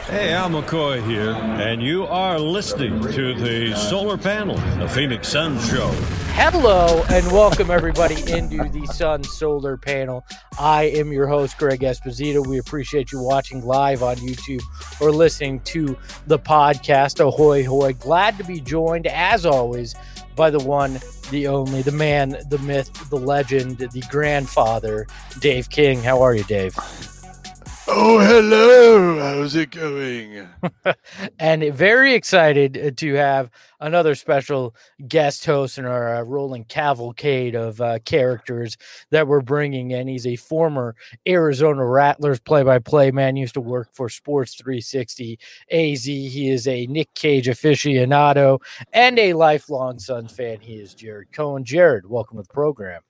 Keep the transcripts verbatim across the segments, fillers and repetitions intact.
Hey, Al McCoy here, and you are listening to the Solar Panel, the Phoenix Sun Show. Hello, and welcome everybody into the Sun Solar Panel. I am your host, Greg Esposito. We appreciate you watching live on YouTube or listening to the podcast. Ahoy, hoy. Glad to be joined, as always, by the one, the only, the man, the myth, the legend, the grandfather, Dave King. How are you, Dave? Oh, hello. How's it going? And very excited to have another special guest host in our uh, rolling cavalcade of uh, characters that we're bringing in. He's a former Arizona Rattlers play-by-play man, used to work for Sports three sixty A Z. He is a Nick Cage aficionado and a lifelong Suns fan. He is Jared Cohen. Jared, welcome to the program.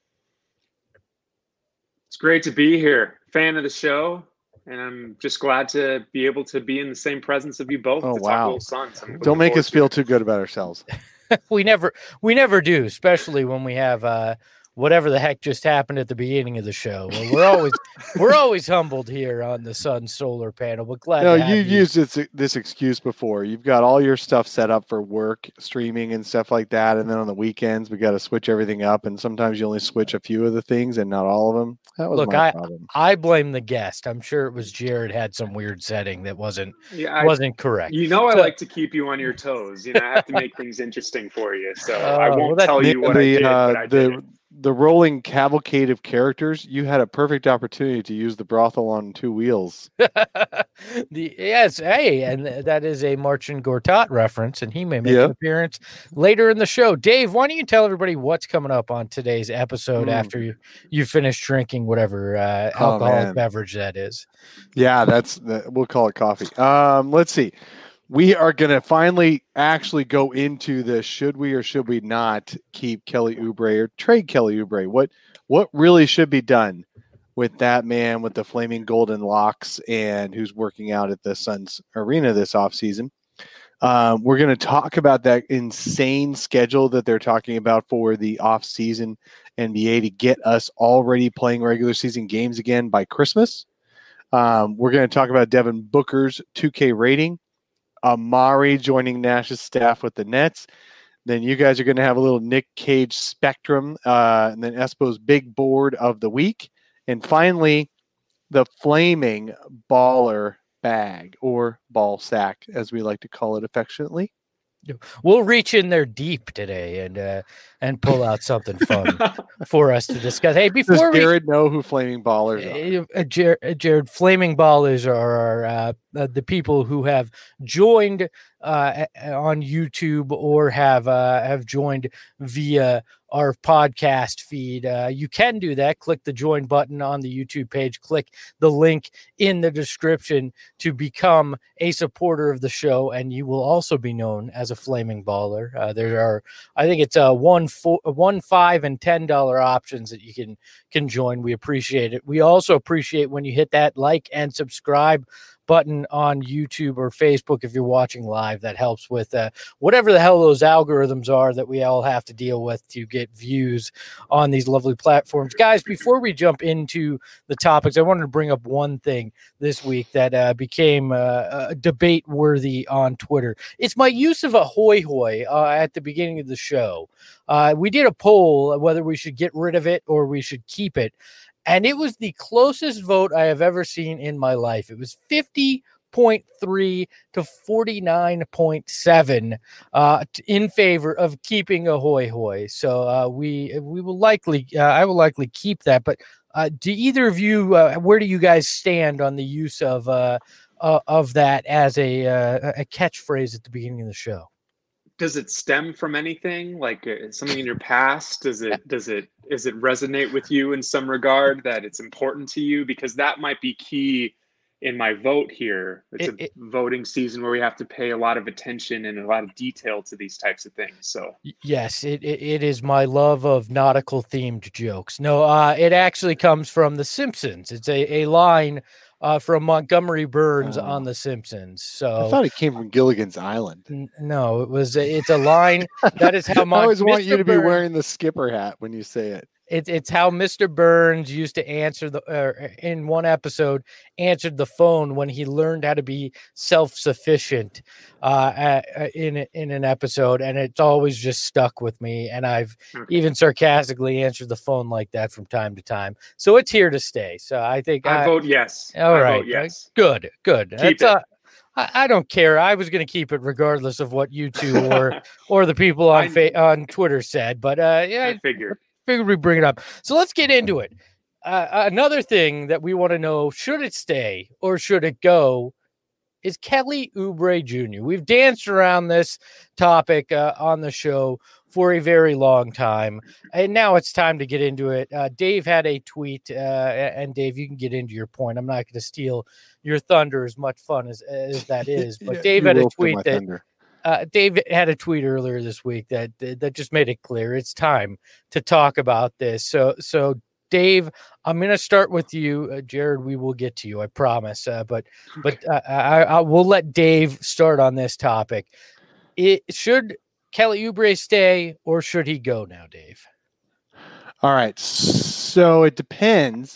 It's great to be here. Fan of the show. And I'm just glad to be able to be in the same presence of you both. Oh, to wow. talk Suns. Don't make us feel too good about ourselves. we never we never do, especially when we have uh, whatever the heck just happened at the beginning of the show. Well, we're always we're always humbled here on the Sun Solar Panel. But glad No, to have you've you. used this, this excuse before. You've got all your stuff set up for work, streaming and stuff like that. And then on the weekends, we got to switch everything up. And sometimes you only switch a few of the things and not all of them. That was Look, my I problem. I blame the guest. I'm sure it was Jared had some weird setting that wasn't yeah, I, wasn't correct. You know, I So- like to keep you on your toes. You know, I have to make things interesting for you. So Oh, I well, won't that- tell you what I the, did, uh, but I the, did. the rolling cavalcade of characters, you had a perfect opportunity to use the brothel on two wheels. the yes, hey, and th- that is a Marcin Gortat reference, and he may make Yeah. an appearance later in the show. Dave, why don't you tell everybody what's coming up on today's episode Mm. after you you finish drinking whatever uh, Oh, alcoholic man. beverage that is? Yeah, that's the, we'll call it coffee. Um, let's see. We are going to finally actually go into the should we or should we not keep Kelly Oubre or trade Kelly Oubre? What what really should be done with that man with the flaming golden locks and who's working out at the Suns arena this offseason? Um, we're going to talk about that insane schedule that they're talking about for the offseason N B A to get us already playing regular season games again by Christmas. Um, we're going to talk about Devin Booker's two K rating. Amari joining Nash's staff with the Nets. Then you guys are going to have a little Nick Cage spectrum, uh, and then Espo's big board of the week. And finally, the flaming baller bag or ball sack, as we like to call it affectionately. We'll reach in there deep today and uh, and pull out something fun for us to discuss. Hey, Does before we Jared know who flaming ballers are? Uh, Jared, uh, Jared, Flaming Ballers are, are uh, uh, the people who have joined uh, on YouTube or have uh, have joined via our podcast feed. Uh, you can do that. Click the join button on the YouTube page. Click the link in the description to become a supporter of the show, and you will also be known as a Flaming Baller. Uh, there are, I think it's a one, four, one, five, and ten dollar options that you can can join. We appreciate it. We also appreciate when you hit that like and subscribe button on YouTube or Facebook if you're watching live. That helps with uh, whatever the hell those algorithms are that we all have to deal with to get views on these lovely platforms. Guys, before we jump into the topics, I wanted to bring up one thing this week that uh, became uh, uh, debate worthy on Twitter. It's my use of a hoy hoy uh, at the beginning of the show. Uh, we did a poll whether we should get rid of it or we should keep it. And it was the closest vote I have ever seen in my life. It was fifty point three to forty-nine point seven uh, in favor of keeping a hoy hoy. So uh, we we will likely, uh, I will likely keep that. But uh, do either of you, uh, where do you guys stand on the use of uh, uh, of that as a uh, a catchphrase at the beginning of the show? Does it stem from anything, like uh, something in your past? Does it does it does it resonate with you in some regard that it's important to you? Because that might be key in my vote here. It's It- a it- voting season where we have to pay a lot of attention and a lot of detail to these types of things. So Y- Yes, it, it it is my love of nautical themed jokes. No, uh, it actually comes from The Simpsons. It's a, a line uh, from Montgomery Burns Oh. on The Simpsons. I So thought it came from Gilligan's Island. n- no, it was a- it's a line that is how I Mon- always want Mister you to be Burns- wearing the skipper hat when you say it. It's it's how Mister Burns used to answer the uh, in one episode answered the phone when he learned how to be self-sufficient uh, at, in in an episode, and it's always just stuck with me. And I've Okay. even sarcastically answered the phone like that from time to time. So it's here to stay. So I think I I, vote yes. all I right, vote yes. good, good. Keep That's, it. uh, I, I don't care. I was going to keep it regardless of what you two or or the people on I- fa- on Twitter said. But uh, yeah, I figured. figured we bring it up. So let's get into it. Uh, another thing that we want to know, should it stay or should it go, is Kelly Oubre Junior We've danced around this topic uh, on the show for a very long time, and now it's time to get into it. Uh, Dave had a tweet, uh, and Dave, you can get into your point. I'm not going to steal your thunder, as much fun as, as that is, but Yeah, Dave you had a will steal tweet my that thunder. uh, Dave had a tweet earlier this week that that just made it clear it's time to talk about this. So, so Dave, I'm going to start with you, uh, Jared. We will get to you, I promise. Uh, but but uh, I, I will let Dave start on this topic. It should Kelly Oubre stay or should he go now, Dave? All right. So it depends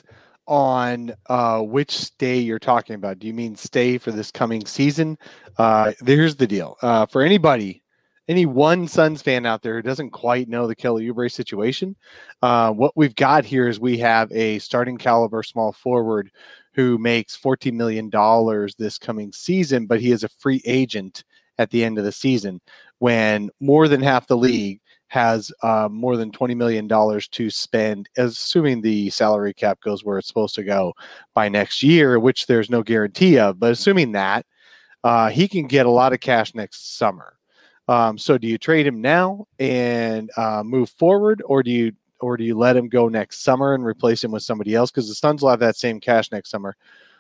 on uh, which stay you're talking about. Do you mean stay for this coming season? Uh, here's the deal. Uh, for anybody, any one Suns fan out there who doesn't quite know the Kelly Oubre situation, uh, what we've got here is we have a starting caliber small forward who makes fourteen million dollars this coming season, but he is a free agent at the end of the season when more than half the league has uh, more than twenty million dollars to spend, assuming the salary cap goes where it's supposed to go by next year, which there's no guarantee of. But assuming that, uh, he can get a lot of cash next summer. Um, so do you trade him now and uh, move forward, or do you or do you let him go next summer and replace him with somebody else? Because the Suns will have that same cash next summer.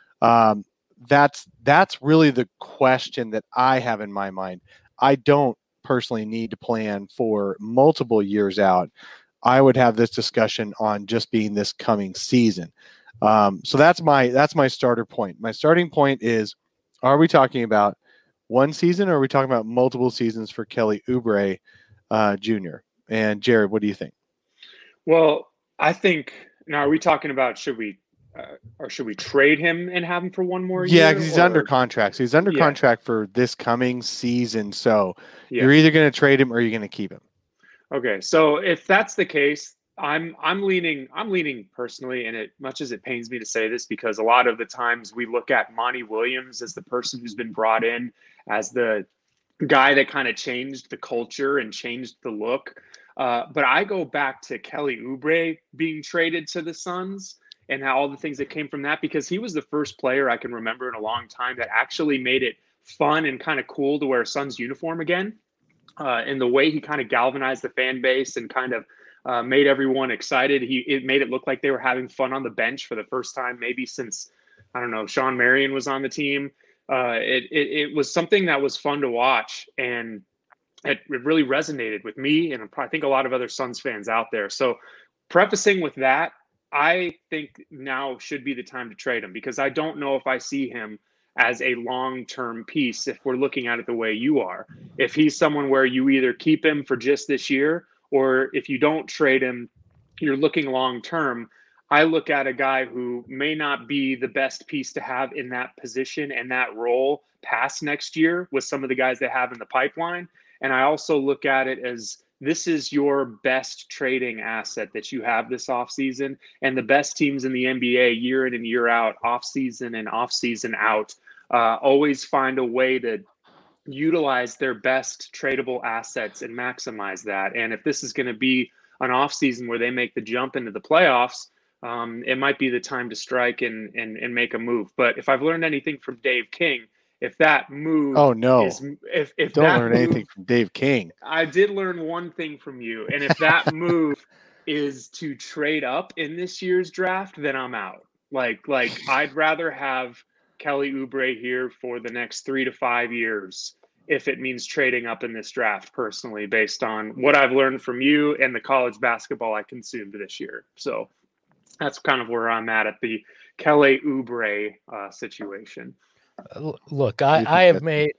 Um, that's that's really the question that I have in my mind. I don't personally need to plan for multiple years out. I would have this discussion on just being this coming season. Um, so that's my that's my starter point. My starting point is: are we talking about one season, or are we talking about multiple seasons for Kelly Oubre uh, Junior? And Jared, what do you think? Well, I think now are we talking about should we uh, or should we trade him and have him for one more year? Yeah, because he's or- under contract. So he's under Yeah. contract for this coming season. So Yeah. you're either going to trade him or you're going to keep him. Okay, so if that's the case, I'm I'm leaning I'm leaning personally, and it much as it pains me to say this, because a lot of the times we look at Monty Williams as the person who's been brought in as the guy that kind of changed the culture and changed the look. Uh, but I go back to Kelly Oubre being traded to the Suns and how all the things that came from that, because he was the first player I can remember in a long time that actually made it fun and kind of cool to wear a Suns uniform again. Uh, and the way he kind of galvanized the fan base and kind of uh, made everyone excited. He it made it look like they were having fun on the bench for the first time, maybe since, I don't know, Sean Marion was on the team. Uh, it, it it was something that was fun to watch, and it, it really resonated with me and I think a lot of other Suns fans out there. So prefacing with that, I think now should be the time to trade him, because I don't know if I see him as a long-term piece if we're looking at it the way you are. If he's someone where you either keep him for just this year, or if you don't trade him, you're looking long-term. I look at a guy who may not be the best piece to have in that position and that role past next year with some of the guys they have in the pipeline. And I also look at it as this is your best trading asset that you have this offseason, and the best teams in the N B A year in and year out, offseason and offseason out, uh, always find a way to utilize their best tradable assets and maximize that. And if this is going to be an offseason where they make the jump into the playoffs, um, it might be the time to strike and, and, and make a move. But if I've learned anything from Dave King, if that move Oh, no. is if, if Don't that learn move, anything from Dave King. I did learn one thing from you. And if that move is to trade up in this year's draft, then I'm out. Like, like I'd rather have Kelly Oubre here for the next three to five years if it means trading up in this draft, personally, based on what I've learned from you and the college basketball I consumed this year. So that's kind of where I'm at at the Kelly Oubre uh, situation. Uh, Look, You I, think I have that's- made yeah.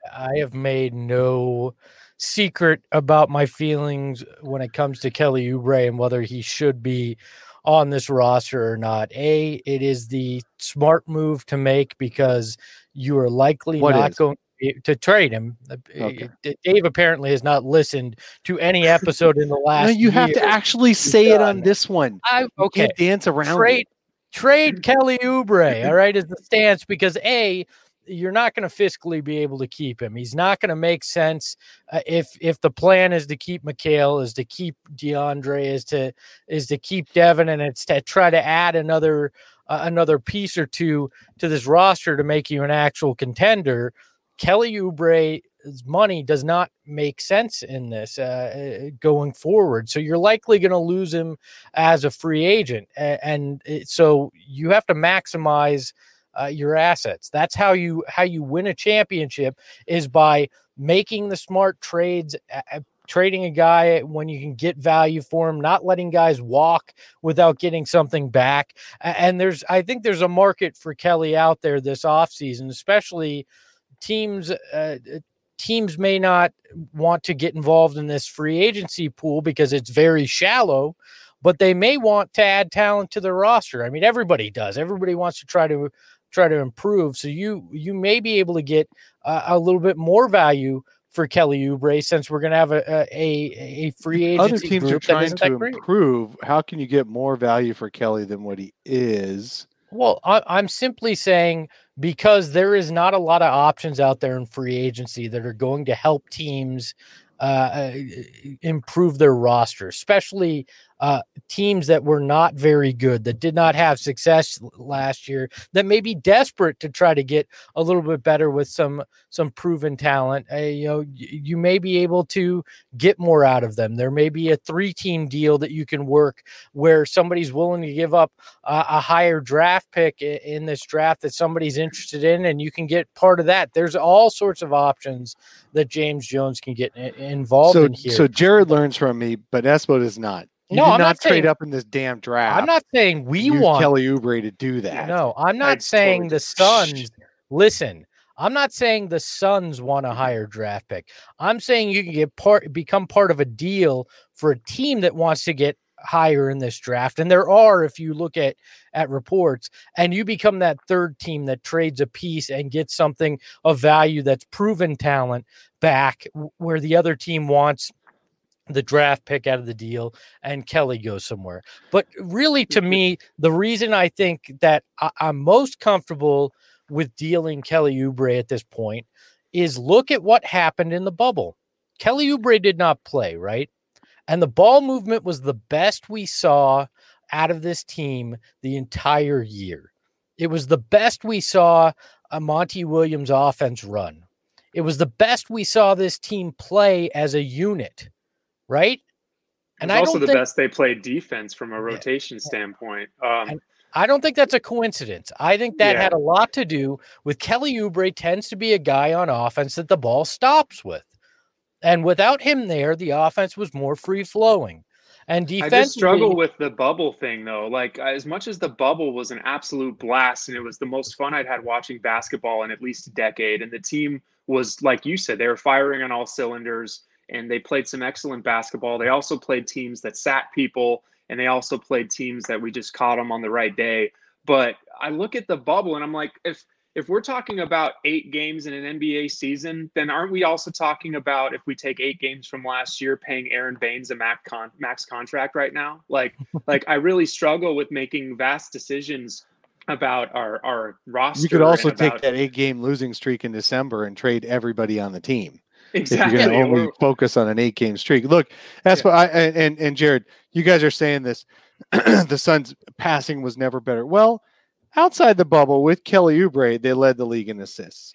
I have made no secret about my feelings when it comes to Kelly Oubre and whether he should be on this roster or not. A, it is the smart move to make because you are likely What not is? going to trade him. Okay. Dave apparently has not listened to any episode in the last No, you have year. to actually say it on this one. I, You okay. can't dance around Trade, it. trade Kelly Oubre, all right, is the stance because A, you're not going to fiscally be able to keep him. He's not going to make sense uh, if if the plan is to keep Mikal, is to keep DeAndre, is to is to keep Devin, and it's to try to add another uh, another piece or two to this roster to make you an actual contender. Kelly Oubre's money does not make sense in this uh, going forward. So you're likely going to lose him as a free agent. And, and it, so you have to maximize uh, your assets. That's how you, how you win a championship, is by making the smart trades, uh, trading a guy when you can get value for him, not letting guys walk without getting something back. And there's, I think there's a market for Kelly out there this offseason, especially teams uh, teams may not want to get involved in this free agency pool because it's very shallow, but they may want to add talent to their roster. I mean, everybody does. Everybody wants to try to try to improve. So you you may be able to get uh, a little bit more value for Kelly Oubre since we're going to have a, a a free agency. Other teams group are trying that to that improve. How can you get more value for Kelly than what he is? Well, I, I'm simply saying because there is not a lot of options out there in free agency that are going to help teams uh, improve their roster, especially uh, teams that were not very good, that did not have success last year, that may be desperate to try to get a little bit better with some some proven talent. Uh, you know, you may be able to get more out of them. There may be a three-team deal that you can work where somebody's willing to give up uh, a higher draft pick in this draft that somebody's interested in, and you can get part of that. There's all sorts of options that James Jones can get involved so, in here. So Jared learns from me, but Espo does not. You no, did I'm not, not trade saying, up in this damn draft. I'm not saying we Use want Kelly Oubre to do that. No, I'm not I saying totally the Suns. Listen, I'm not saying the Suns want a higher draft pick. I'm saying you can get part, become part of a deal for a team that wants to get higher in this draft. And there are, if you look at, at reports, and you become that third team that trades a piece and gets something of value that's proven talent back where the other team wants the draft pick out of the deal and Kelly goes somewhere. But really, to me, the reason I think that I, I'm most comfortable with dealing Kelly Oubre at this point is look at what happened in the bubble. Kelly Oubre did not play, right? And the ball movement was the best we saw out of this team the entire year. It was the best we saw a Monty Williams offense run. It was the best we saw this team play as a unit. Right. And I also don't the think, best they played defense from a rotation yeah. standpoint. Um, I don't think that's a coincidence. I think that yeah. had a lot to do with Kelly Oubre tends to be a guy on offense that the ball stops with. And without him there, the offense was more free flowing. And defensively, I just struggle with the bubble thing, though. Like, as much as the bubble was an absolute blast and it was the most fun I'd had watching basketball in at least a decade, and the team was, like you said, they were firing on all cylinders. And they played some excellent basketball. They also played teams that sat people, and they also played teams that we just caught them on the right day. But I look at the bubble, and I'm like, if if we're talking about eight games in an N B A season, then aren't we also talking about, if we take eight games from last year, paying Aaron Baines a max, con- max contract right now? Like, like I really struggle with making vast decisions about our, our roster. You could also about- take that eight-game losing streak in December and trade everybody on the team. Exactly. If you're going to only focus on an eight-game streak. Look, that's yeah. what I and and Jared, you guys are saying this. The Suns' passing was never better. Well, outside the bubble with Kelly Oubre, they led the league in assists.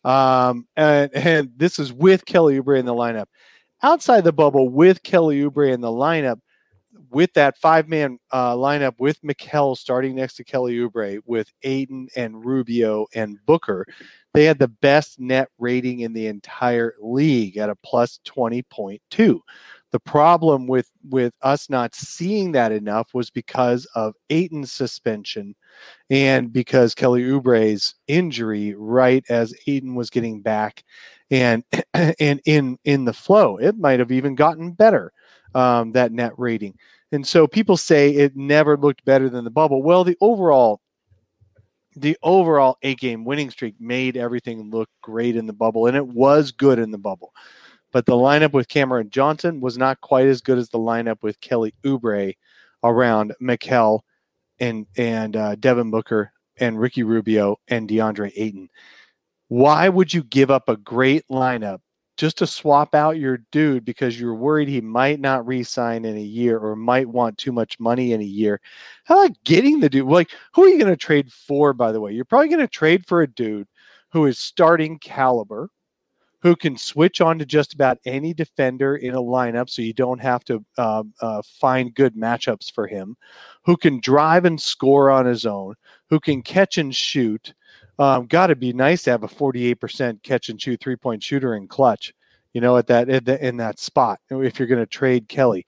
Um, and and this is with Kelly Oubre in the lineup. Outside the bubble with Kelly Oubre in the lineup, with that five-man uh, lineup with Mikal starting next to Kelly Oubre, with Aiden and Rubio and Booker, they had the best net rating in the entire league at a plus twenty point two. The problem with with us not seeing that enough was because of Ayton's suspension and because Kelly Oubre's injury right as Ayton was getting back and and in in the flow. It might have even gotten better, um, that net rating. And so people say it never looked better than the bubble. Well, the overall the overall eight-game winning streak made everything look great in the bubble, and it was good in the bubble. But the lineup with Cameron Johnson was not quite as good as the lineup with Kelly Oubre around Mikal and and uh, Devin Booker and Ricky Rubio and DeAndre Ayton. Why would you give up a great lineup just to swap out your dude because you're worried he might not re-sign in a year or might want too much money in a year? How about getting the dude? Like, who are you going to trade for, by the way? You're probably going to trade for a dude who is starting caliber, who can switch on to just about any defender in a lineup so you don't have to uh, uh, find good matchups for him, who can drive and score on his own, who can catch and shoot. Um, Got to be nice to have a forty-eight percent catch and shoot three-point shooter in clutch, you know, at that in, the, in that spot. If you're going to trade Kelly,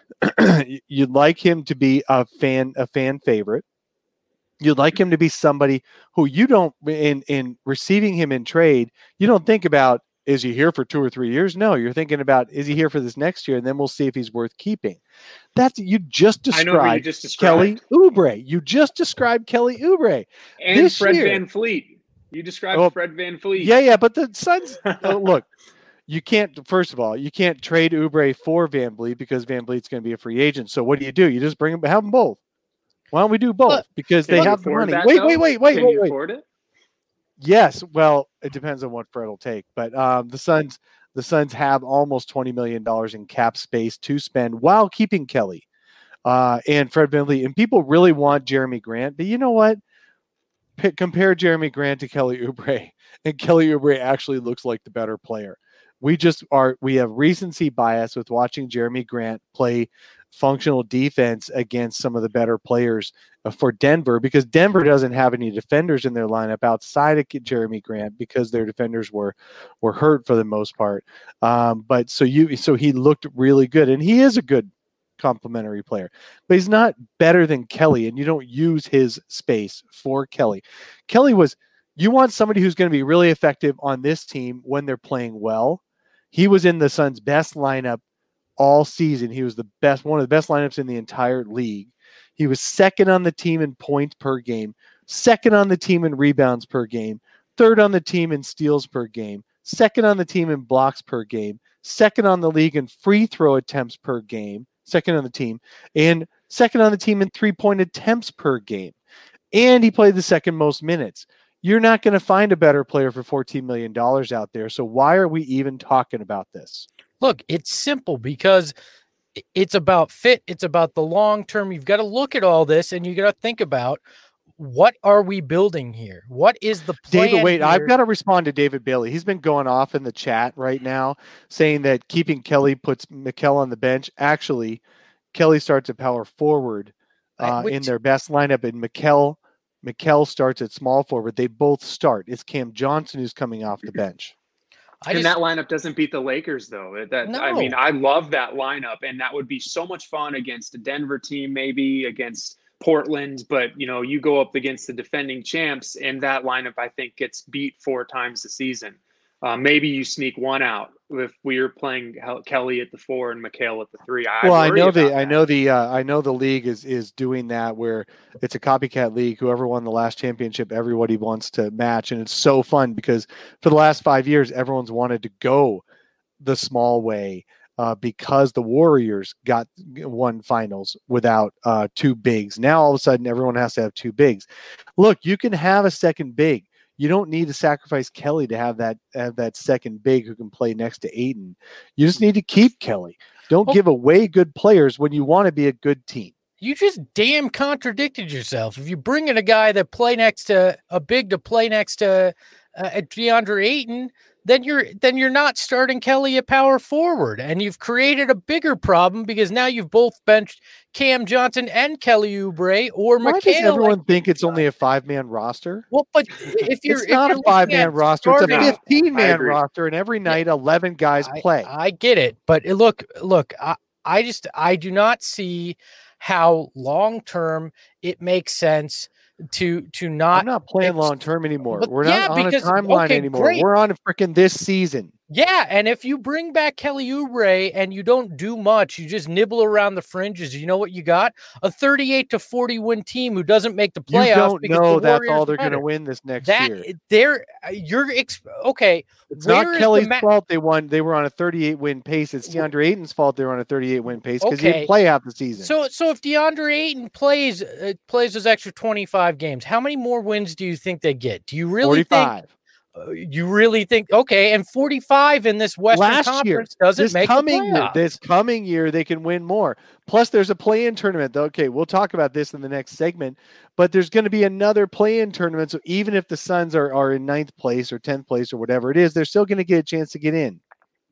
you'd like him to be a fan a fan favorite. You'd like him to be somebody who you don't in in receiving him in trade. You don't think about, is he here for two or three years? No, you're thinking about, is he here for this next year? And then we'll see if he's worth keeping. That's you just described, I know who you just described. Kelly Oubre. You just described Kelly Oubre. And this Fred year, Van Fleet. You described oh, Fred Van Fleet. Yeah, yeah, but the Suns, uh, look, you can't, first of all, you can't trade Oubre for Van Vliet because Van Vliet's going to be a free agent. So what do you do? You just bring them, have them both. Why don't we do both? Look, because Can they you have the afford money. that, Wait, though? wait, wait, wait, Can wait, you wait. afford it? Yes, well, it depends on what Fred will take, but um, the Suns, the Suns have almost twenty million dollars in cap space to spend while keeping Kelly uh, and Fred VanVleet. And people really want Jeremy Grant, but you know what? P- compare Jeremy Grant to Kelly Oubre, and Kelly Oubre actually looks like the better player. We just are, we have recency bias with watching Jeremy Grant play functional defense against some of the better players for Denver, because Denver doesn't have any defenders in their lineup outside of Jeremy Grant because their defenders were were hurt for the most part. Um, but so you so he looked really good, and he is a good complementary player, but he's not better than Kelly, and you don't use his space for Kelly. Kelly was, you want somebody who's going to be really effective on this team when they're playing well. He was in the Suns' best lineup all season. He was the best, one of the best lineups in the entire league. He was second on the team in points per game, second on the team in rebounds per game, third on the team in steals per game, second on the team in blocks per game, second on the league in free throw attempts per game, second on the team, and second on the team in three-point attempts per game. And he played the second most minutes. You're not going to find a better player for fourteen million dollars out there. So why are we even talking about this? Look, it's simple because it's about fit. It's about the long term. You've got to look at all this and you got to think about, what are we building here? What is the plan? David, wait, here? I've got to respond to David Bailey. He's been going off in the chat right now saying that keeping Kelly puts Mikal on the bench. Actually, Kelly starts at power forward uh, Which, in their best lineup, and Mikal Mikal starts at small forward. They both start. It's Cam Johnson who's coming off the bench. I and just, that lineup doesn't beat the Lakers, though. That No. I mean, I love that lineup, and that would be so much fun against a Denver team, maybe against Portland. But you know, you go up against the defending champs, and that lineup, I think, gets beat four times a season. Uh, maybe you sneak one out if we are playing Kelly at the four and Mikal at the three. I well, I know the that. I know the uh, I know the league is is doing that, where it's a copycat league. Whoever won the last championship, everybody wants to match, and it's so fun because for the last five years, everyone's wanted to go the small way uh, because the Warriors got one finals without uh, two bigs. Now all of a sudden, everyone has to have two bigs. Look, you can have a second big. You don't need to sacrifice Kelly to have that have that second big who can play next to Ayton. You just need to keep Kelly. Don't Oh. give away good players when you want to be a good team. You just damn contradicted yourself. If you bring in a guy that play next to a big to play next to uh, DeAndre Ayton, then you're then you're not starting Kelly at power forward, and you've created a bigger problem because now you've both benched Cam Johnson and Kelly Oubre or Why does Mikhail. everyone like, think it's only a five-man roster? well, but if you're It's if not you're a looking five-man at roster. It's a starting- No, I fifteen-man agree. roster, and every night eleven guys I, play. I get it, but it- look, look, I, I just I do not see how long term it makes sense to to not. I'm not playing ex- long term anymore. but We're yeah, not on because- a timeline okay, anymore. great. We're on a freaking this season. Yeah, and if you bring back Kelly Oubre and you don't do much, you just nibble around the fringes. You know what you got? A thirty-eight to forty win team who doesn't make the playoffs. You don't because know the that's Warriors all they're are going to better. win this next That year. they're you're ex- okay. It's where not is the Kelly's ma- fault they won. They were on a thirty-eight win pace. It's DeAndre Ayton's fault they were on a thirty-eight win pace because he Okay. didn't play half the season. So, so if DeAndre Ayton plays uh, plays those extra twenty-five games, how many more wins do you think they get? Do you really forty-five. think? Uh, you really think? Okay, and forty-five in this Western Last year, Conference doesn't this make the coming year, playoffs. this coming year, they can win more. Plus, there's a play-in tournament. Okay, we'll talk about this in the next segment. But there's going to be another play-in tournament. So even if the Suns are, are in ninth place or tenth place or whatever it is, they're still going to get a chance to get in.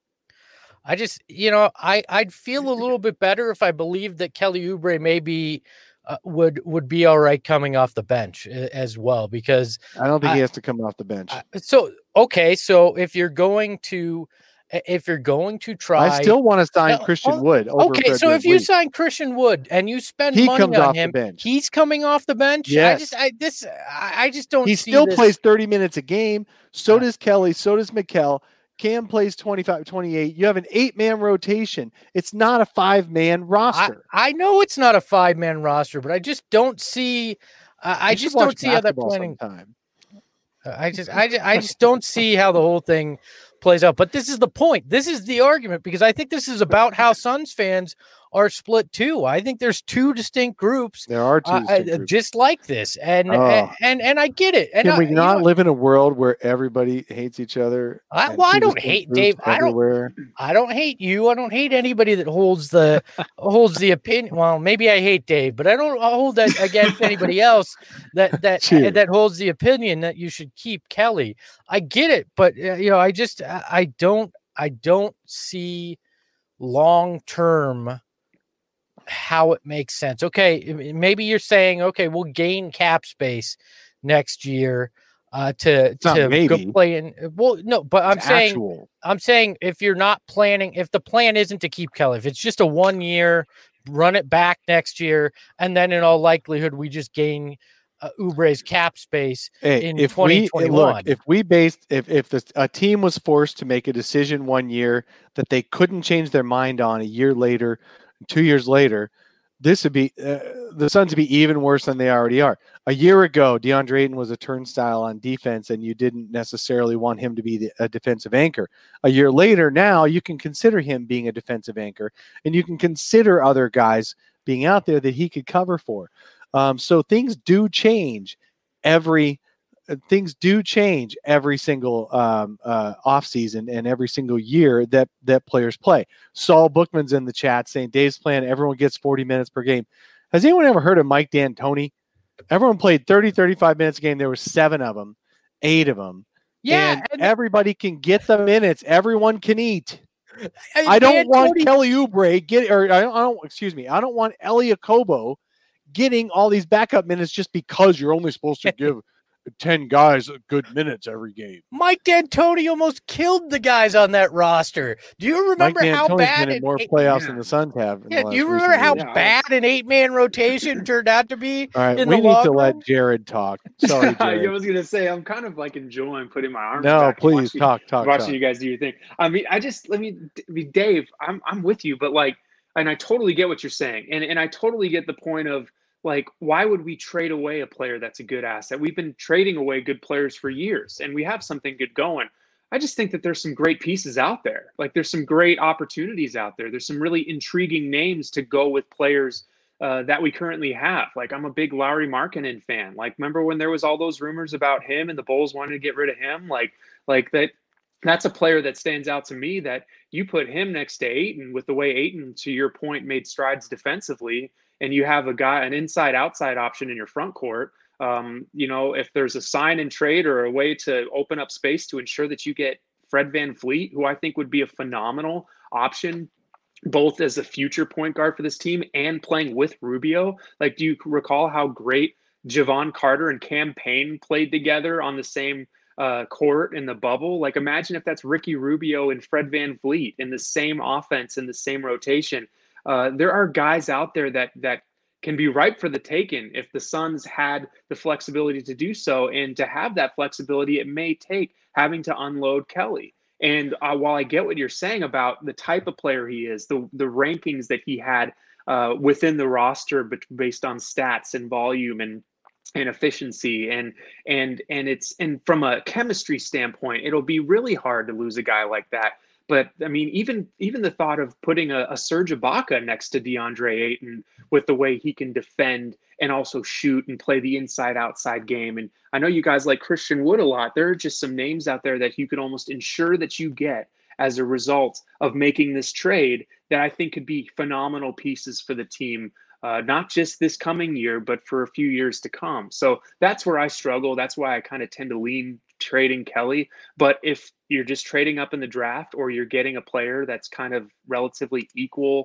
I just, you know, I I'd feel a little bit better if I believed that Kelly Oubre maybe uh, would would be all right coming off the bench uh, as well, because I don't think I- he has to come off the bench. I, so okay, so if you're going to if you're going to try, I still want to sign No, Christian oh, Wood. Over okay, so Frederick if you Lee. sign Christian Wood and you spend He money comes on off the him, bench. he's coming off the bench. I Yes. just, I this, I, I just don't. He see still this. plays thirty minutes a game. So Uh, does Kelly. So does McKell. Cam plays twenty-five, twenty-eight. You have an eight-man rotation. It's not a five-man I, roster. I know it's not a five man roster, but I just don't see. Uh, I You should just watch don't see how that basketball planning. sometime. I just, I just, I just don't see how the whole thing plays out. But this is the point. This is the argument, because I think this is about how Suns fans are split too. I think there's two distinct groups, There are two uh, distinct uh, groups. just like this, and Oh. and, and and I get it. And Can I, we you not know, live in a world where everybody hates each other? I- and well, I two don't distinct hate groups Dave. I don't- everywhere? I don't hate you. I don't hate anybody that holds the holds the opinion. Well, maybe I hate Dave, but I don't hold that against anybody else that that Cheers. that holds the opinion that you should keep Kelly. I get it, but uh, you know, I just I I don't I don't see long term how it makes sense. Okay, m- maybe you're saying, okay, we'll gain cap space next year uh to not to maybe. go play in. Well, no, but I'm It's saying actual. I'm saying if you're not planning, if the plan isn't to keep Kelly, if it's just a one year, run it back next year, and then in all likelihood we just gain uh, Oubre's cap space. Hey, in if we twenty look, twenty-one. if we based, if if the, a team was forced to make a decision one year that they couldn't change their mind on a year later, two years later, this would be uh, the Suns would be even worse than they already are. A year ago, DeAndre Ayton was a turnstile on defense, and you didn't necessarily want him to be the, a defensive anchor. A year later, now you can consider him being a defensive anchor, and you can consider other guys being out there that he could cover for. Um, so things do change every uh, things do change every single um, uh, offseason and every single year that that players play. Saul Bookman's in the chat saying Dave's plan, everyone gets forty minutes per game. Has anyone ever heard of Mike D'Antoni? Everyone played thirty, thirty-five minutes a game. There were seven of them, eight of them. yeah, and, and everybody can get the minutes. Everyone can eat. and I don't want D'Antoni- Kelly Oubre get or I don't, I don't excuse me. I don't want Elie Okobo getting all these backup minutes just because you're only supposed to give ten guys good minutes every game. Mike D'Antoni almost killed the guys on that roster. Do you remember Mike how D'Antoni's bad been in it- more it- playoffs yeah. than the Suns have. in the Yeah, do last you remember recent how years. Yeah. bad an eight man rotation turned out to be? All right, in we the need long to let run? Jared talk. Sorry, I Jared. was gonna say I'm kind of like enjoying putting my arms. No, back and please watching, talk, talk, watching talk. you guys do your thing. I mean, I just let me, I mean, Dave. I'm I'm with you, but like, and I totally get what you're saying, and and I totally get the point of like, why would we trade away a player that's a good asset? We've been trading away good players for years, and we have something good going. I just think that there's some great pieces out there. Like, there's some great opportunities out there. There's some really intriguing names to go with players uh, that we currently have. Like, I'm a big Lauri Markkanen fan. Like, remember when there was all those rumors about him and the Bulls wanted to get rid of him? Like, like that. That's a player that stands out to me, that you put him next to Ayton, with the way Ayton, to your point, made strides defensively, and you have a guy, an inside outside option in your front court. Um, you know, if there's a sign and trade or a way to open up space to ensure that you get Fred VanVleet, who I think would be a phenomenal option, both as a future point guard for this team and playing with Rubio. Like, do you recall how great Javon Carter and Cam Payne played together on the same uh, court in the bubble? Like, imagine if that's Ricky Rubio and Fred VanVleet in the same offense, in the same rotation. Uh, there are guys out there that that can be ripe for the taking if the Suns had the flexibility to do so. And to have that flexibility, it may take having to unload Kelly. And uh, while I get what you're saying about the type of player he is, the the rankings that he had uh, within the roster, but based on stats and volume and and efficiency, and and and it's and from a chemistry standpoint, it'll be really hard to lose a guy like that. But I mean, even even the thought of putting a, a Serge Ibaka next to DeAndre Ayton, with the way he can defend and also shoot and play the inside-outside game. And I know you guys like Christian Wood a lot. There are just some names out there that you can almost ensure that you get as a result of making this trade that I think could be phenomenal pieces for the team, uh, not just this coming year, but for a few years to come. So that's where I struggle. That's why I kind of tend to lean trading Kelly. But if you're just trading up in the draft, or you're getting a player that's kind of relatively equal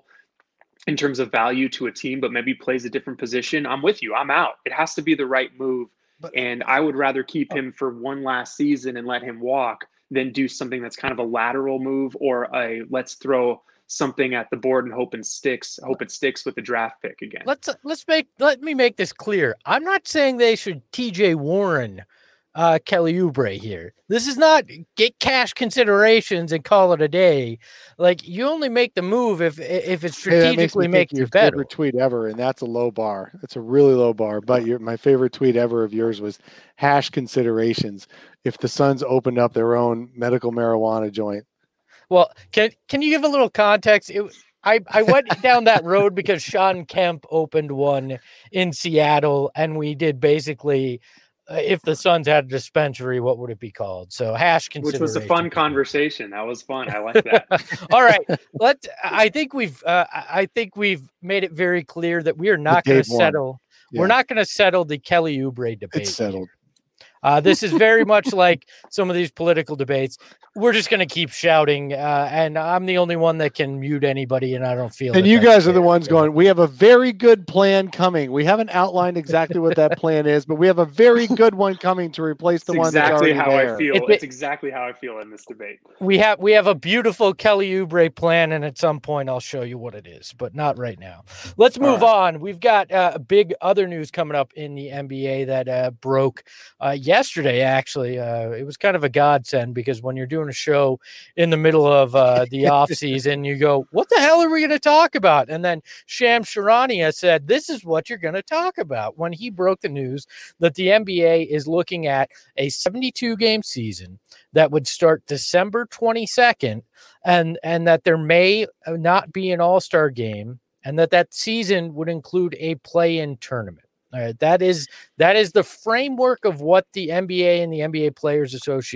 in terms of value to a team, but maybe plays a different position, I'm with you. I'm out. It has to be the right move. But, and I would rather keep him for one last season and let him walk than do something that's kind of a lateral move, or a let's throw something at the board and hope and sticks, hope it sticks with the draft pick again. Let's let's make let me make this clear. I'm not saying they should T J Warren uh, Kelly Oubre here. This is not get cash considerations and call it a day. Like, you only make the move if if it strategically hey, makes your you better. Favorite tweet ever, and that's a low bar. That's a really low bar. But your my favorite tweet ever of yours was hash considerations. If the Suns opened up their own medical marijuana joint. Well, can can you give a little context? It, I, I went down that road because Sean Kemp opened one in Seattle, and we did basically, uh, if the Suns had a dispensary, what would it be called? So hash consideration. Which was a fun conversation. That was fun. I like that. All right, let's. I think we've. Uh, I think we've made it very clear that we are not going to settle. Yeah. We're not going to settle the Kelly Oubre debate. It's settled. Uh, this is very much like some of these political debates. We're just going to keep shouting, uh, and I'm the only one that can mute anybody, and I don't feel. And you guys are the ones going, we have a very good plan coming. We haven't outlined exactly what that plan is, but we have a very good one coming to replace the it's one exactly that's already how there. I feel. It's, it's exactly how I feel in this debate. We have we have a beautiful Kelly Oubre plan, and at some point I'll show you what it is, but not right now. Let's move right on. We've got uh, big other news coming up in the N B A that uh, broke uh, yesterday, actually. Uh, it was kind of a godsend, because when you're doing a show in the middle of uh, the off season, you go, what the hell are we going to talk about? And then Shams Charania said, this is what you're going to talk about, when he broke the news that the N B A is looking at a seventy-two game season that would start December twenty-second, and, and that there may not be an all-star game, and that that season would include a play-in tournament. All right, that is that is the framework of what the N B A and the N B A Players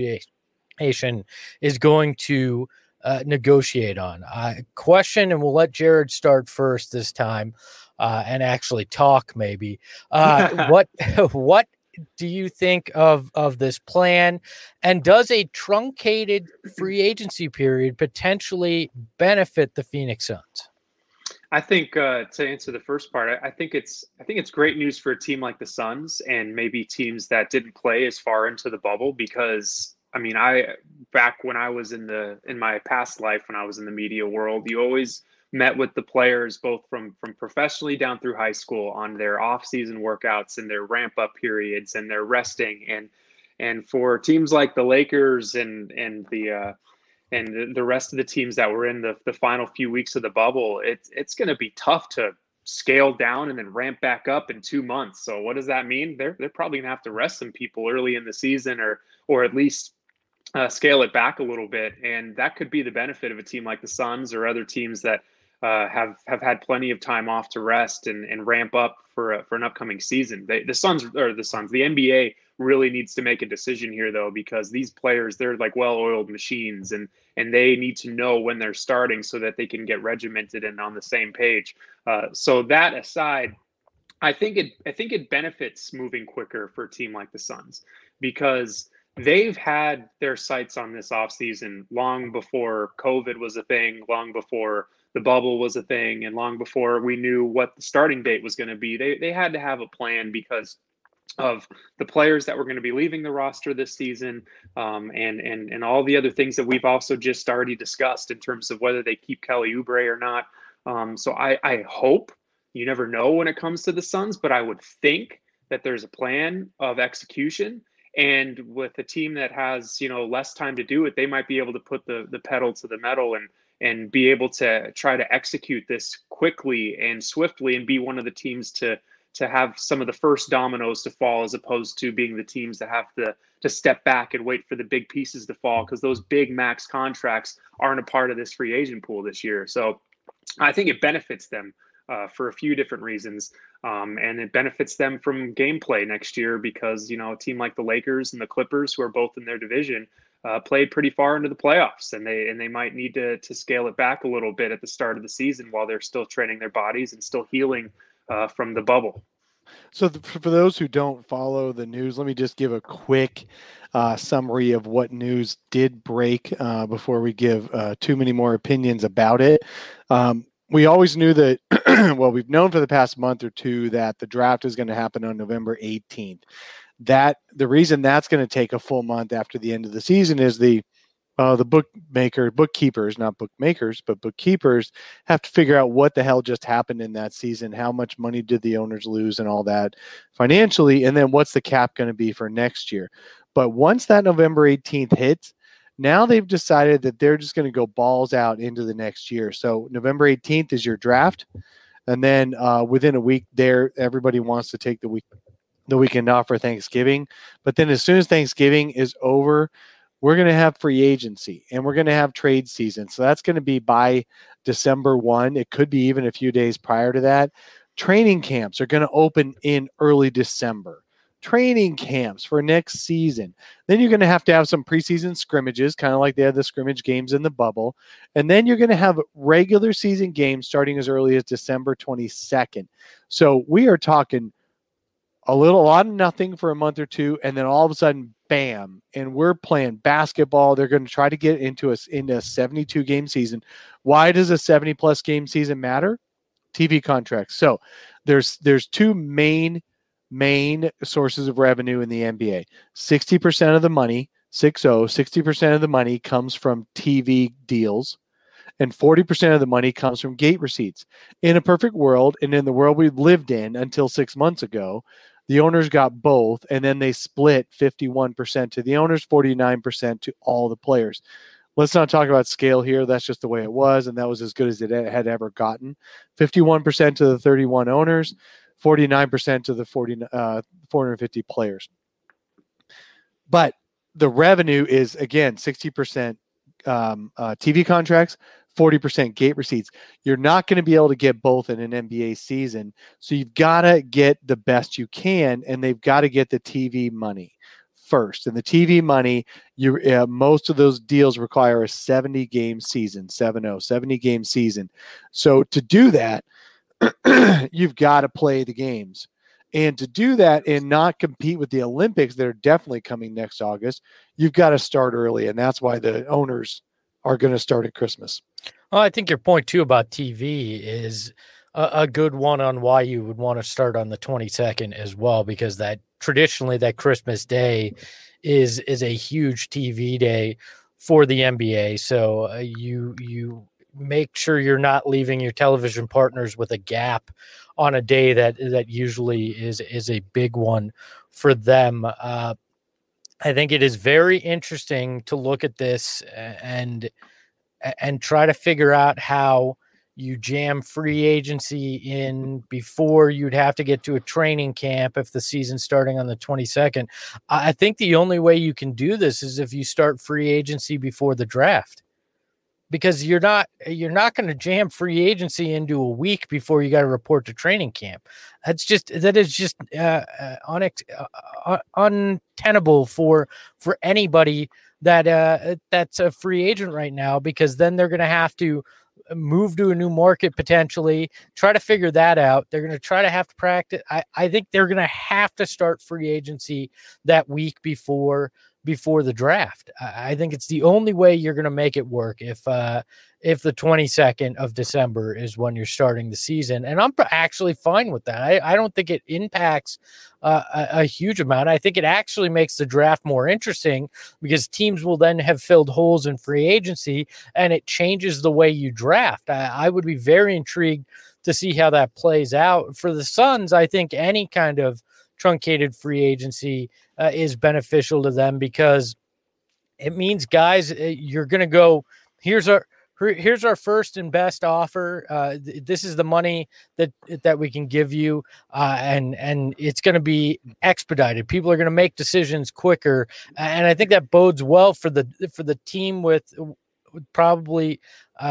Association is going to uh, negotiate on. Uh, question, and we'll let Jared start first this time, uh, and actually talk maybe. Uh, what what do you think of of this plan, and does a truncated free agency period potentially benefit the Phoenix Suns? I think uh, to answer the first part, I, I think it's I think it's great news for a team like the Suns, and maybe teams that didn't play as far into the bubble, because I mean, I back when I was in the in my past life, when I was in the media world, you always met with the players, both from from professionally down through high school, on their off-season workouts and their ramp-up periods and their resting, and and for teams like the Lakers and and the uh, and the rest of the teams that were in the, the final few weeks of the bubble, it's it's going to be tough to scale down and then ramp back up in two months. So what does that mean? They're they're probably going to have to rest some people early in the season, or or at least uh, scale it back a little bit. And that could be the benefit of a team like the Suns, or other teams that uh, have have had plenty of time off to rest and, and ramp up for a, for an upcoming season. They, the Suns or the Suns, the N B A really needs to make a decision here, though, because these players, they're like well-oiled machines, and and they need to know when they're starting so that they can get regimented and on the same page. Uh, so that aside, I think it I think it benefits moving quicker for a team like the Suns, because they've had their sights on this offseason long before COVID was a thing, long before the bubble was a thing, and long before we knew what the starting date was going to be. They they had to have a plan because of the players that were going to be leaving the roster this season, um, and and and all the other things that we've also just already discussed in terms of whether they keep Kelly Oubre or not. Um, so I, I hope, you never know when it comes to the Suns, but I would think that there's a plan of execution. And with a team that has, you know, less time to do it, they might be able to put the the pedal to the metal and and be able to try to execute this quickly and swiftly and be one of the teams to to have some of the first dominoes to fall, as opposed to being the teams that have to to step back and wait for the big pieces to fall, because those big max contracts aren't a part of this free agent pool this year. So I think it benefits them uh, for a few different reasons. Um, and it benefits them from gameplay next year because, you know, a team like the Lakers and the Clippers, who are both in their division, uh, played pretty far into the playoffs, and they and they might need to to scale it back a little bit at the start of the season while they're still training their bodies and still healing uh, from the bubble. So th- for those who don't follow the news, let me just give a quick uh, summary of what news did break uh, before we give uh, too many more opinions about it. Um, we always knew that, well, we've known for the past month or two that the draft is going to happen on November eighteenth. That the reason that's going to take a full month after the end of the season is the Uh, the bookmaker, bookkeepers, not bookmakers, but bookkeepers have to figure out what the hell just happened in that season. How much money did the owners lose and all that financially? And then what's the cap going to be for next year? But once that November eighteenth hits, now they've decided that they're just going to go balls out into the next year. So November eighteenth is your draft. And then uh, within a week there, everybody wants to take the week, the weekend off for Thanksgiving. But then as soon as Thanksgiving is over, we're going to have free agency and we're going to have trade season. So that's going to be by December first. It could be even a few days prior to that. Training camps are going to open in early December. Training camps for next season. Then you're going to have to have some preseason scrimmages, kind of like they had the scrimmage games in the bubble. And then you're going to have regular season games starting as early as December twenty-second. So we are talking a little, a lot of nothing for a month or two, and then all of a sudden, bam, and we're playing basketball. They're going to try to get into a, into a seventy-two game season. Why does a seventy plus game season matter? T V contracts. So there's there's two main main sources of revenue in the N B A. sixty percent of the money, six oh, sixty percent of the money comes from T V deals, and forty percent of the money comes from gate receipts. In a perfect world, and in the world we lived in until six months ago, the owners got both, and then they split fifty-one percent to the owners, forty-nine percent to all the players. Let's not talk about scale here. That's just the way it was, and that was as good as it had ever gotten. fifty-one percent to the thirty-one owners, forty-nine percent to the forty, uh, four hundred fifty players. But the revenue is, again, sixty percent um, uh, T V contracts, forty percent gate receipts. You're not going to be able to get both in an N B A season. So you've got to get the best you can, and they've got to get the T V money first. And the T V money, you uh, most of those deals require a seventy game season, seven oh, seventy game season. So to do that, you've got to play the games. And to do that and not compete with the Olympics that are definitely coming next August, you've got to start early. And that's why the owners are going to start at Christmas. Well, I think your point too about T V is a, a good one on why you would want to start on the twenty-second as well, because that traditionally that Christmas day is is a huge T V day for the N B A. So uh, you you make sure you're not leaving your television partners with a gap on a day that that usually is is a big one for them. Uh, I think it is very interesting to look at this and and try to figure out how you jam free agency in before you'd have to get to a training camp if the season's starting on the twenty-second. I think the only way you can do this is if you start free agency before the draft, because you're not you're not going to jam free agency into a week before you got to report to training camp. That's just that is just uh, uh, unex- uh, untenable for for anybody that uh, that's a free agent right now, because then they're going to have to move to a new market, potentially try to figure that out. They're going to try to have to practice. I, I think they're going to have to start free agency that week before before the draft. I, I think it's the only way you're going to make it work if uh, if the twenty-second of December is when you're starting the season. And I'm actually fine with that. I, I don't think it impacts uh, a, a huge amount. I think it actually makes the draft more interesting because teams will then have filled holes in free agency, and it changes the way you draft. I, I would be very intrigued to see how that plays out. For the Suns, I think any kind of truncated free agency uh, is beneficial to them because it means, guys, you're going to go, here's our here's our first and best offer. Uh, th- this is the money that that we can give you, uh, and and it's going to be expedited. People are going to make decisions quicker, and I think that bodes well for the for the team with probably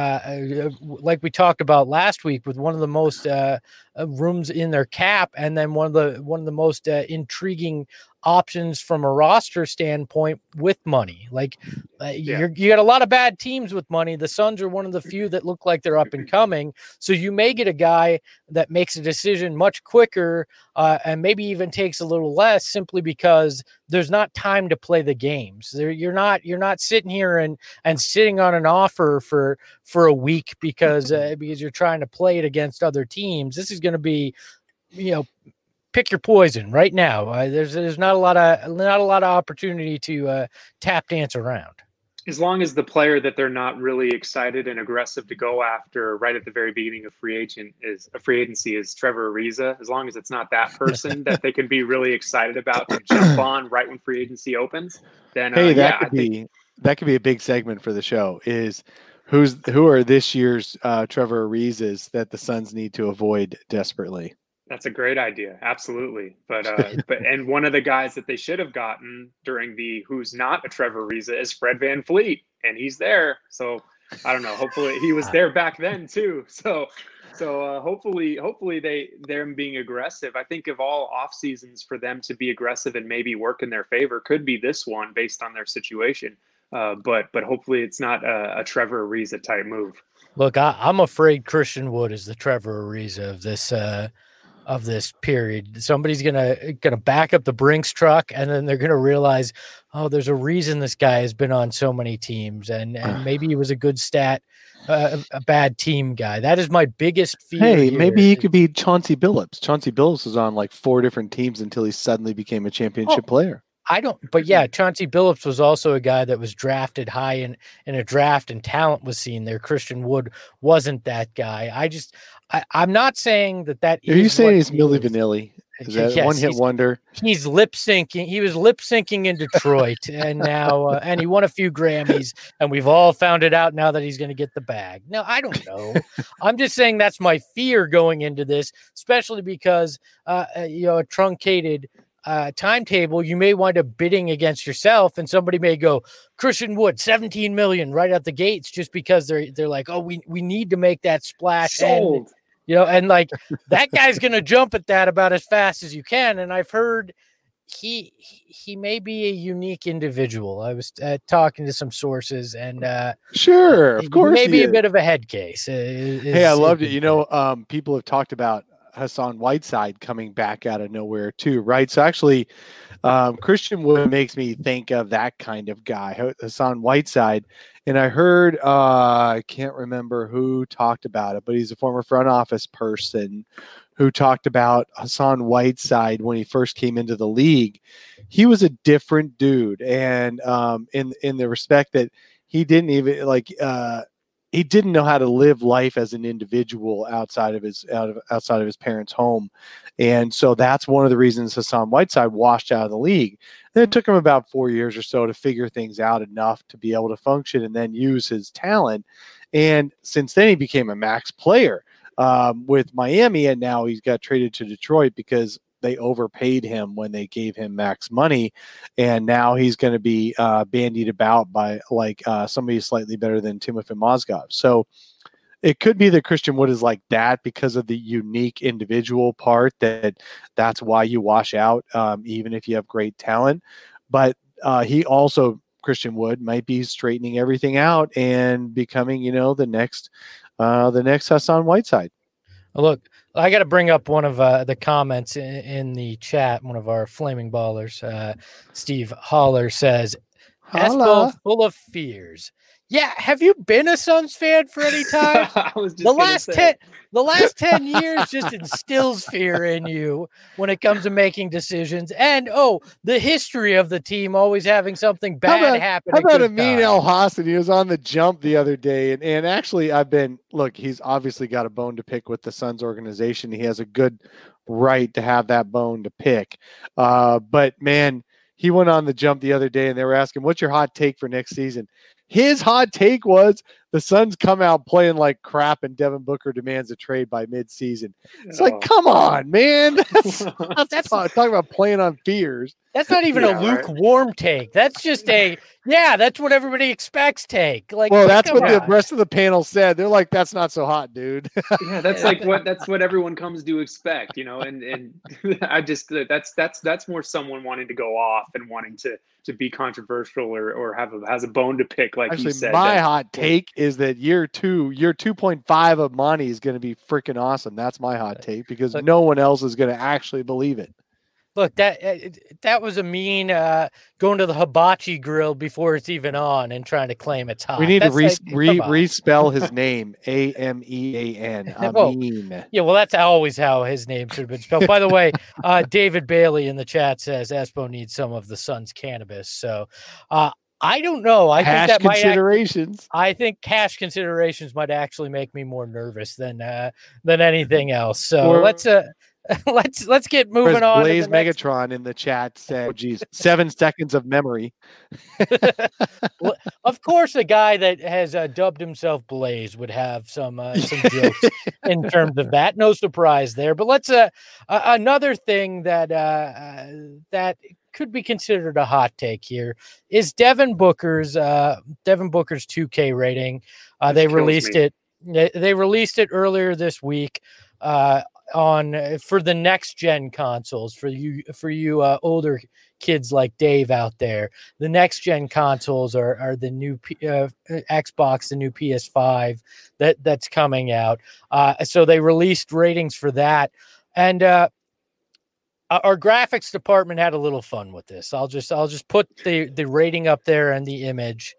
uh, like we talked about last week, with one of the most uh, rooms in their cap, and then one of the one of the most uh, intriguing options from a roster standpoint with money. Like uh, Yeah. you're, you got a lot of bad teams with money. The Suns are one of the few that look like they're up and coming. So you may get a guy that makes a decision much quicker uh, and maybe even takes a little less, simply because there's not time to play the games. There, you're not you're not sitting here and and sitting on an offer for for a week because uh, because you're trying to play it against other teams. This is going to be, you know, pick your poison right now. Uh, there's there's not a lot of not a lot of opportunity to uh, tap dance around. As long as the player that they're not really excited and aggressive to go after right at the very beginning of free agent is a free agency is Trevor Ariza, as long as it's not that person that they can be really excited about to jump on right when free agency opens, then Hey, uh, that yeah, could I think be that could be a big segment for the show. Is who's who are this year's uh, Trevor Arizas that the Suns need to avoid desperately? that's a great idea. Absolutely. But uh but and one of the guys that they should have gotten during the who's not a Trevor Ariza is Fred VanVleet, and he's there. So I don't know. Hopefully he was there back then too. So so uh, hopefully hopefully they them being aggressive. I think of all off seasons for them to be aggressive and maybe work in their favor could be this one based on their situation. Uh, but but hopefully it's not a, a Trevor Ariza type move. Look, I, I'm afraid Christian Wood is the Trevor Ariza of this uh, of this period. Somebody's gonna gonna back up the Brinks truck, and then they're gonna realize, oh, there's a reason this guy has been on so many teams, and and maybe he was a good stat, uh, a bad team guy. That is my biggest fear. Hey, here. maybe he could be Chauncey Billups. Chauncey Billups was on like four different teams until he suddenly became a championship Oh. player. I don't, but yeah, Chauncey Billups was also a guy that was drafted high in, in a draft, and talent was seen there. Christian Wood wasn't that guy. I just, I, I'm not saying that that Are you is saying what he's he Milli is. Vanilli? Is that Yes, one hit he's- wonder? He's lip syncing. He was lip syncing in Detroit, and now, uh, and he won a few Grammys, and we've all found it out now that he's going to get the bag. No, I don't know. I'm just saying that's my fear going into this, especially because, uh, uh, you know, a truncated uh, timetable, you may wind up bidding against yourself, and somebody may go Christian Wood, seventeen million right out the gates, just because they're they're like, oh, we we need to make that splash. And, Sold. you know, and like that guy's going to jump at that about as fast as you can. And I've heard he he may be a unique individual. I was uh, talking to some sources, and uh, Sure, of course. he maybe a is. bit of a head case. uh, is- Hey, I is loved a it. good You know, um, people have talked about Hassan Whiteside coming back out of nowhere too, right? So actually, um, Christian Wood makes me think of that kind of guy, Hassan Whiteside. And I heard, uh, I can't remember who talked about it, but he's a former front office person who talked about Hassan Whiteside when he first came into the league. He was a different dude, and um, in in the respect that he didn't even like. Uh, he didn't know how to live life as an individual outside of his out of outside of his parents' home. And so that's one of the reasons Hassan Whiteside washed out of the league. And it took him about four years or so to figure things out enough to be able to function and then use his talent. And since then he became a max player um, with Miami, and now he's got traded to Detroit because they overpaid him when they gave him max money, and now he's going to be uh, bandied about by like uh, somebody slightly better than Timofey Mozgov. So it could be that Christian Wood is like that because of the unique individual part, that that's why you wash out, um, even if you have great talent. But uh, he also, Christian Wood, might be straightening everything out and becoming, you know, the next, uh, the next Hassan Whiteside. Look, I got to bring up one of uh, the comments in, in the chat. One of our flaming ballers, uh, Steve Holler, says, Espo Holla. full of fears. Yeah, have you been a Suns fan for any time? I was just the gonna last say. ten the last ten years just instills fear in you when it comes to making decisions. And oh, the history of the team always having something bad How about, happen. how at about good Amin times. El Hassan? He was on the jump the other day, and, and actually, I've been look. He's obviously got a bone to pick with the Suns organization. He has a good right to have that bone to pick. Uh, but man, he went on the jump the other day, and they were asking, "What's your hot take for next season?" His hot take was the Suns come out playing like crap, and Devin Booker demands a trade by midseason. It's Oh. like, come on, man. That's, that's, That's- talk, talking about playing on fears. That's not even Yeah, a right. lukewarm take. That's just a, yeah, that's what everybody expects take. Like, Well, that's come what the on. rest of the panel said. They're like, that's not so hot, dude. Yeah, that's like what that's what everyone comes to expect, you know. And and I just that's that's that's more someone wanting to go off and wanting to to be controversial or or have a has a bone to pick, like Actually, you said. my that- hot take is that year two, year two point five of Monty is going to be freaking awesome. That's my hot take because Look- no one else is going to actually believe it. Look, that uh, that was a mean uh, going to the hibachi grill before it's even on and trying to claim it's hot. We need That's to re- like, re- come on. respell his name, A M E A N. Whoa. Amin. Yeah, well, that's always how his name should have been spelled. By the way, uh, David Bailey in the chat says Espo needs some of the Suns cannabis. So uh, I don't know. I Cash think that might act- considerations. I think cash considerations might actually make me more nervous than uh, than anything else. So Or- let's uh, let's let's get moving Whereas on. to Blaze the next- Megatron in the chat said, geez, seven seconds of memory. Of course, a guy that has uh, dubbed himself Blaze would have some uh, some jokes in terms of that. No surprise there. But let's uh, uh another thing that uh, uh that could be considered a hot take here is Devin Booker's uh Devin Booker's two K rating. Uh, This they kills released me. it. They, they released it earlier this week. Uh, on for the next gen consoles for you for you uh, older kids like Dave out there. The next gen consoles are are the new P, uh, Xbox, the new P S five that that's coming out. Uh, so they released ratings for that, and uh, our graphics department had a little fun with this. I'll just I'll just put the the rating up there and the image.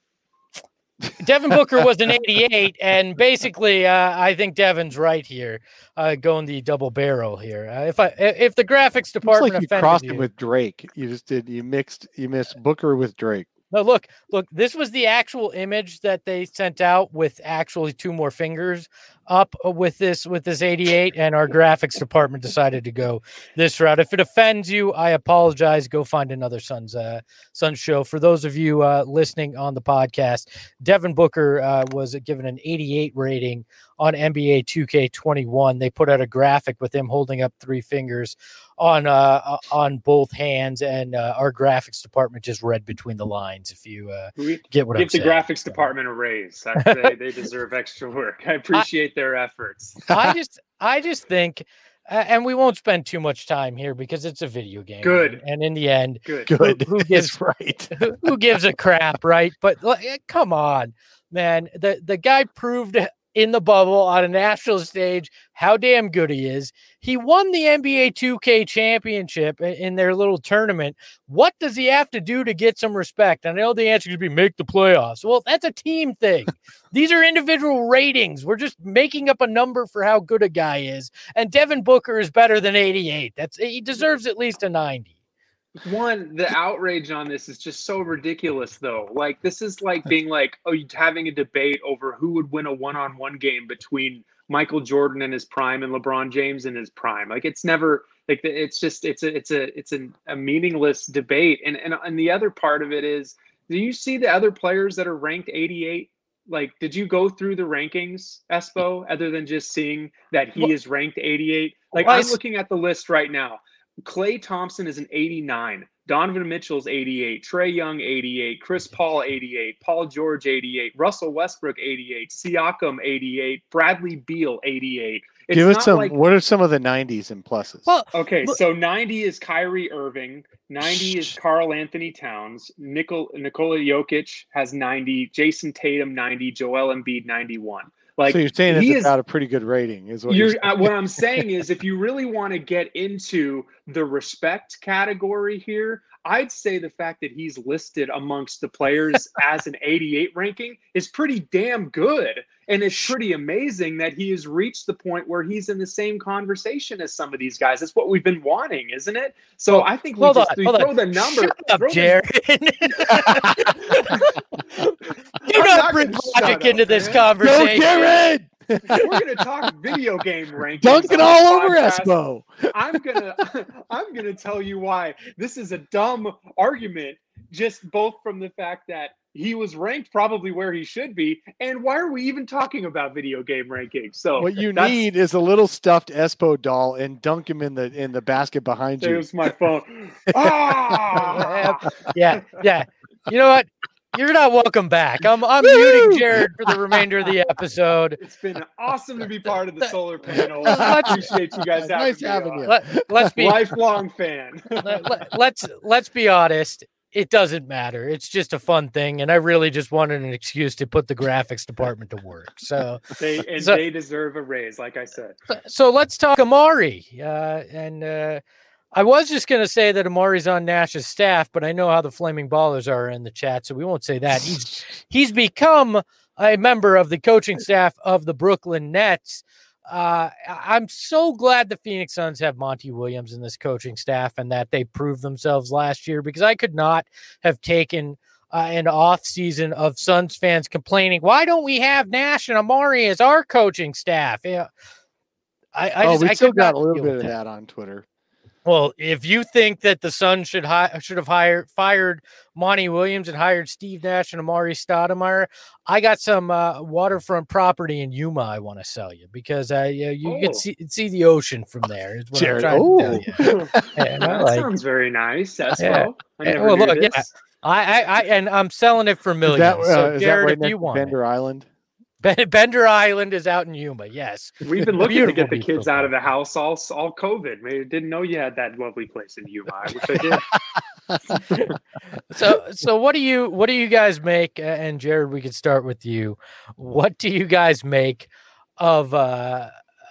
Devin Booker was an eighty-eight, and basically, uh, I think Devin's right here, uh, going the double barrel here. Uh, if I if the graphics It's department like you offended crossed you, him with Drake. You just did. You mixed. You missed Booker with Drake. no, look, look, this was the actual image that they sent out with actually two more fingers up with this with this eighty-eight, and our graphics department decided to go this route. If it offends you, I apologize. Go find another Suns uh, Suns show. For those of you uh, listening on the podcast, Devin Booker uh, was given an eighty-eight rating on N B A two K twenty-one. They put out a graphic with him holding up three fingers on uh, on both hands, and uh, our graphics department just read between the lines. If you uh, We get what I'm give the saying. graphics department a raise. I- they, they deserve extra work. I appreciate their efforts. I just, I just think, uh, and we won't spend too much time here because it's a video game. Good. And, and in the end, Good. Good. who gives- It's right. who, who gives a crap, right? But like, eh, come on, man. The the guy proved in the bubble on a national stage how damn good he is. He won the N B A two K championship i- in their little tournament. What does he have to do to get some respect? I know the answer could be make the playoffs. Well, that's a team thing. These are individual ratings. We're just making up a number for how good a guy is. And Devin Booker is better than eighty-eight. That's he deserves at least a ninety. One, the outrage on this is just so ridiculous, though. Like, this is like being like, oh, you're having a debate over who would win a one-on-one game between Michael Jordan in his prime and LeBron James in his prime. Like, it's never like it's just it's a it's a it's a, a meaningless debate. And and and the other part of it is, do you see the other players that are ranked eighty-eight? Like, did you go through the rankings, Espo, other than just seeing that he Well- is ranked eighty-eight? Like, Well, I I'm s- looking at the list right now. Klay Thompson is an eighty-nine. Donovan Mitchell's eighty-eight. Trae Young, eighty-eight. Chris Paul, eighty-eight. Paul George, eighty-eight. Russell Westbrook, eighty-eight. Siakam, eighty-eight. Bradley Beal, eighty-eight. It's Give us not some. like, What are some of the nineties and pluses? Well, okay, look- so ninety is Kyrie Irving. ninety is Karl Anthony Towns. Nicol, Nikola Jokic has ninety. Jason Tatum, ninety. Joel Embiid, ninety-one. Like, so you're saying it's he is, about a pretty good rating, is what you're, you're uh, what I'm saying is, if you really want to get into the respect category here, I'd say the fact that he's listed amongst the players as an eighty-eight ranking is pretty damn good. And it's pretty amazing that he has reached the point where he's in the same conversation as some of these guys. That's what we've been wanting, isn't it? So well, I think we hold just on, we hold throw on. the number. Shut up, throw the- Jared. Do I'm not not bring gonna logic shut into up, this man. Go, conversation. Jared! We're gonna talk video game rankings. Dunking on all this over podcast. Espo. I'm gonna I'm gonna tell you why this is a dumb argument, just both from the fact that he was ranked probably where he should be, and why are we even talking about video game rankings? So What you that's- need is a little stuffed Espo doll and dunk him in the in the basket behind you. There's my phone. Ah! Yeah, yeah. You know what? You're not welcome back. I'm I'm Woo! muting Jared for the remainder of the episode. It's been awesome to be part of the solar panel. Let's- I appreciate you guys having Nice me having on. you. Let, let's be Lifelong fan. let, let- let's let's be honest. It doesn't matter. It's just a fun thing, and I really just wanted an excuse to put the graphics department to work. So, They and So- they deserve a raise, like I said. so let's talk Amari. Uh, and uh, I was just going to say that Amari's on Nash's staff, but I know how the Flaming Ballers are in the chat, so we won't say that. He's he's become a member of the coaching staff of the Brooklyn Nets. Uh, I- I'm so glad the Phoenix Suns have Monty Williams in this coaching staff and that they proved themselves last year, because I could not have taken uh, an off season of Suns fans complaining, why don't we have Nash and Amari as our coaching staff? Yeah. I, I oh, just, we I still could got not a little deal bit with of that. that on Twitter. Well, if you think that the Suns should hi- should have hired fired Monty Williams and hired Steve Nash and Amari Stoudemire, I got some uh, waterfront property in Yuma I want to sell you, because uh, you, you Oh. can see see the ocean from there. Is what Jared, I'm trying oh. to tell you. And I That like- sounds very nice. Espo. Yeah. I Yeah, never well, knew look, this. yeah. I, I, I, and I'm selling it for Is millions. that, uh, so is that Jared, right if next you to want it. Bender Island? Ben- Bender Island is out in Yuma. Yes. We've been looking to Beautiful get the beach kids football. out of the house all all COVID. Maybe didn't know you had that lovely place in Yuma. I wish I did. So, so what do you what do you guys make? uh, And Jared, we could start with you. What do you guys make of uh,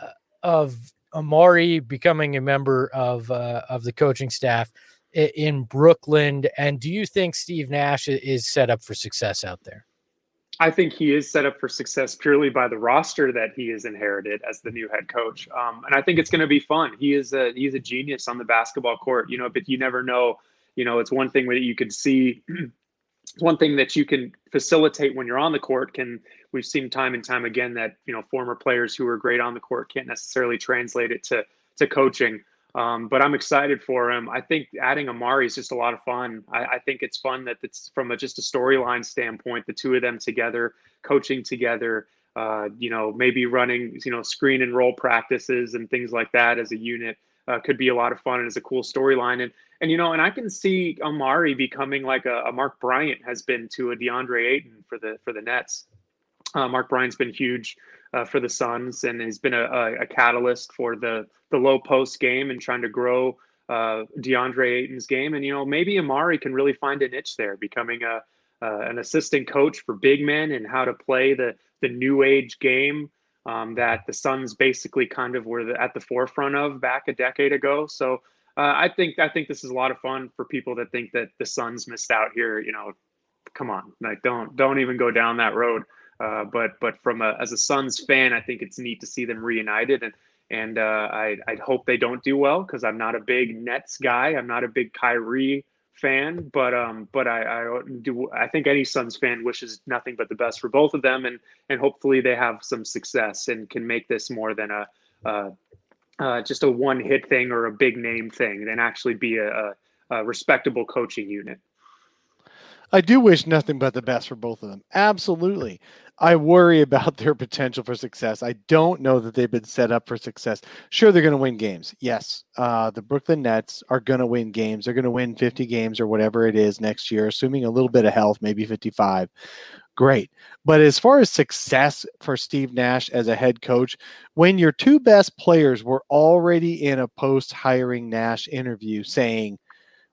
of Amari becoming a member of uh, of the coaching staff i- in Brooklyn? And do you think Steve Nash i- is set up for success out there? I think he is set up for success purely by the roster that he has inherited as the new head coach. Um, and I think it's going to be fun. He is a he's a genius on the basketball court, you know, but you never know, you know, it's one thing that you can see. It's one thing that you can facilitate when you're on the court. Can we've seen time and time again that, you know, former players who are great on the court can't necessarily translate it to, to coaching. Um, but I'm excited for him. I think adding Amari is just a lot of fun. I, I think it's fun that it's from a, just a storyline standpoint, the two of them together, coaching together, uh, you know, maybe running, you know, screen and roll practices and things like that as a unit uh, could be a lot of fun and is a cool storyline. And, and, you know, and I can see Amari becoming like a, a Mark Bryant has been to a DeAndre Ayton for the, for the Nets. Uh, Mark Bryant's been huge uh, for the Suns and has been a, a, a catalyst for the, the low post game and trying to grow uh, DeAndre Ayton's game. And, you know, maybe Amari can really find a niche there, becoming a uh, an assistant coach for big men and how to play the, the new age game um, that the Suns basically kind of were the, at the forefront of back a decade ago. So uh, I think I think this is a lot of fun for people that think that the Suns missed out here. You know, come on, like don't don't even go down that road. Uh, but but from a as a Suns fan, I think it's neat to see them reunited, and and uh, I I hope they don't do well because I'm not a big Nets guy. I'm not a big Kyrie fan, but um but I I do I think any Suns fan wishes nothing but the best for both of them, and and hopefully they have some success and can make this more than a uh, uh, just a one hit thing or a big name thing, and actually be a, a, a respectable coaching unit. I do wish nothing but the best for both of them. Absolutely. I worry about their potential for success. I don't know that they've been set up for success. Sure, they're going to win games. Yes, uh, the Brooklyn Nets are going to win games. They're going to win fifty games or whatever it is next year, assuming a little bit of health, maybe fifty-five. Great. But as far as success for Steve Nash as a head coach, when your two best players were already in a post-hiring Nash interview saying,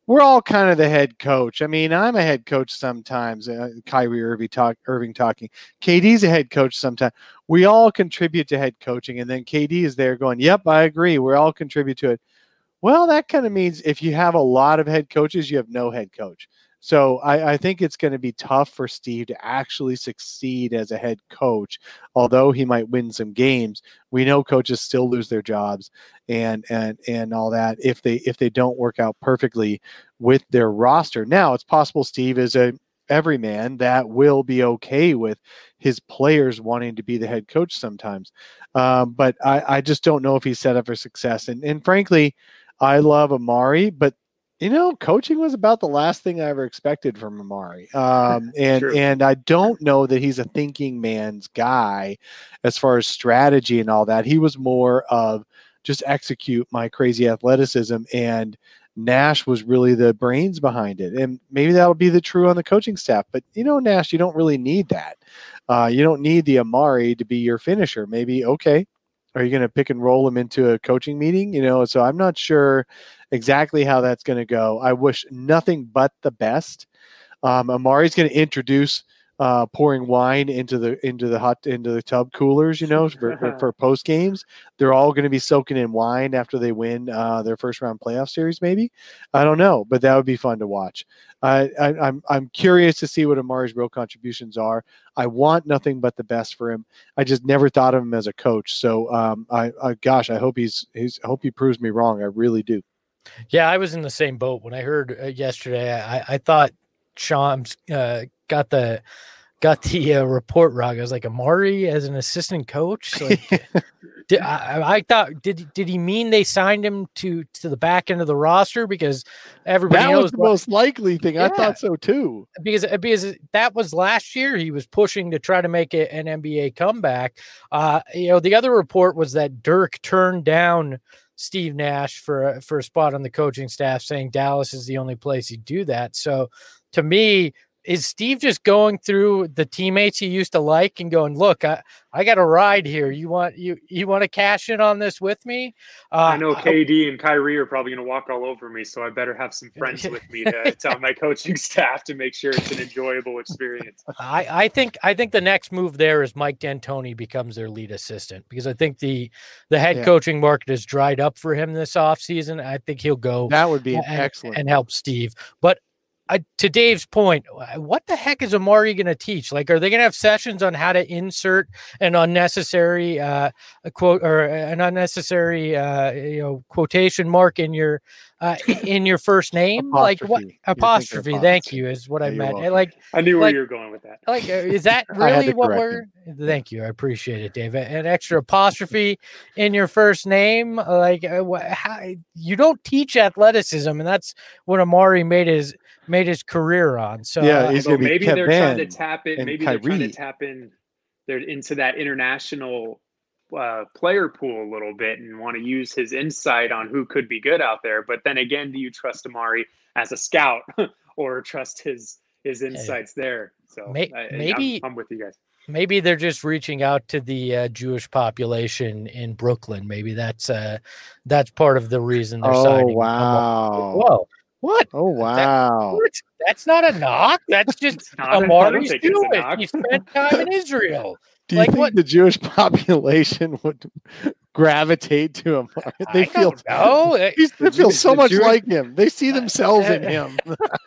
we're all kind of the head coach. I mean, I'm a head coach sometimes. Uh, Kyrie Irving talk, Irving talking. K D's a head coach sometimes. We all contribute to head coaching, and then K D is there going, "Yep, I agree. We all contribute to it." Well, that kind of means if you have a lot of head coaches, you have no head coach. So I, I think it's going to be tough for Steve to actually succeed as a head coach. Although he might win some games, we know coaches still lose their jobs and and and all that if they if they don't work out perfectly with their roster. Now, it's possible Steve is a everyman that will be okay with his players wanting to be the head coach sometimes. Um, but I, I just don't know if he's set up for success. And and frankly, I love Amari, but you know, coaching was about the last thing I ever expected from Amari. Um, and, True. and I don't know that he's a thinking man's guy as far as strategy and all that. He was more of just execute my crazy athleticism, and Nash was really the brains behind it. And maybe that'll be the true on the coaching staff, but you know, Nash, you don't really need that. Uh, you don't need the Amari to be your finisher. Maybe, okay, are you going to pick and roll him into a coaching meeting? You know, so I'm not sure exactly how that's going to go. I wish nothing but the best. Um, Amari's going to introduce uh, pouring wine into the into the hot into the tub coolers. You know, for, for, for post games, they're all going to be soaking in wine after they win uh, their first round playoff series. Maybe, I don't know, but that would be fun to watch. Uh, I, I'm I'm curious to see what Amari's real contributions are. I want nothing but the best for him. I just never thought of him as a coach. So, um, I, I gosh, I hope he's he's I hope he proves me wrong. I really do. Yeah, I was in the same boat when I heard uh, yesterday. I, I thought Shams uh, got the got the uh, report wrong. I was like, Amari as an assistant coach. Like, did, I, I thought did did he mean they signed him to to the back end of the roster because everybody that knows was the most likely thing. Yeah. I thought so too. Because because that was last year. He was pushing to try to make it an N B A comeback. Uh, you know, the other report was that Dirk turned down Steve Nash for a, for a spot on the coaching staff, saying Dallas is the only place he'd do that. So to me, is Steve just going through the teammates he used to like and going, look, I, I got a ride here. You want you you want to cash in on this with me? Uh, I know K D and Kyrie are probably going to walk all over me, so I better have some friends with me to tell my coaching staff to make sure it's an enjoyable experience. I, I think I think the next move there is Mike D'Antoni becomes their lead assistant, because I think the the head Yeah. coaching market has dried up for him this offseason. I think he'll go That would be an and, excellent and help Steve. But I, to Dave's point, what the heck is Amari going to teach? Like, are they going to have sessions on how to insert an unnecessary uh, a quote or an unnecessary uh, you know quotation mark in your uh, in your first name? Like what Apostrophe. apostrophe? You're thinking Thank apostrophe. you is what Yeah, I you're meant. welcome. Like I knew Like- where you were going with that. like, uh, is that I had really to what correct we're? Thank you, I appreciate it, Dave. An extra apostrophe in your first name, like uh, wh- how, you don't teach athleticism, and that's what Amari made his made his career on. So Yeah, uh, he's So gonna be maybe they're trying to Kevin tap in. and Maybe they're trying to Kyrie. tap in. They're into that international uh, player pool a little bit and want to use his insight on who could be good out there. But then again, do you trust Amari as a scout or trust his his insights there? So May- I, maybe- I'm, I'm with you guys. maybe they're just reaching out to the uh, Jewish population in Brooklyn. Maybe that's uh, that's part of the reason they're Oh signing. wow! Whoa, what? Oh wow! What? That's not a knock. That's just It's not a- I don't Amari's think it's a Jewish. knock. He spent time in Israel. Do you like think what- the Jewish population would gravitate to him? They I feel don't know. Uh, He's- they The feel Jew- so the much Jewish- like him. They see themselves in him.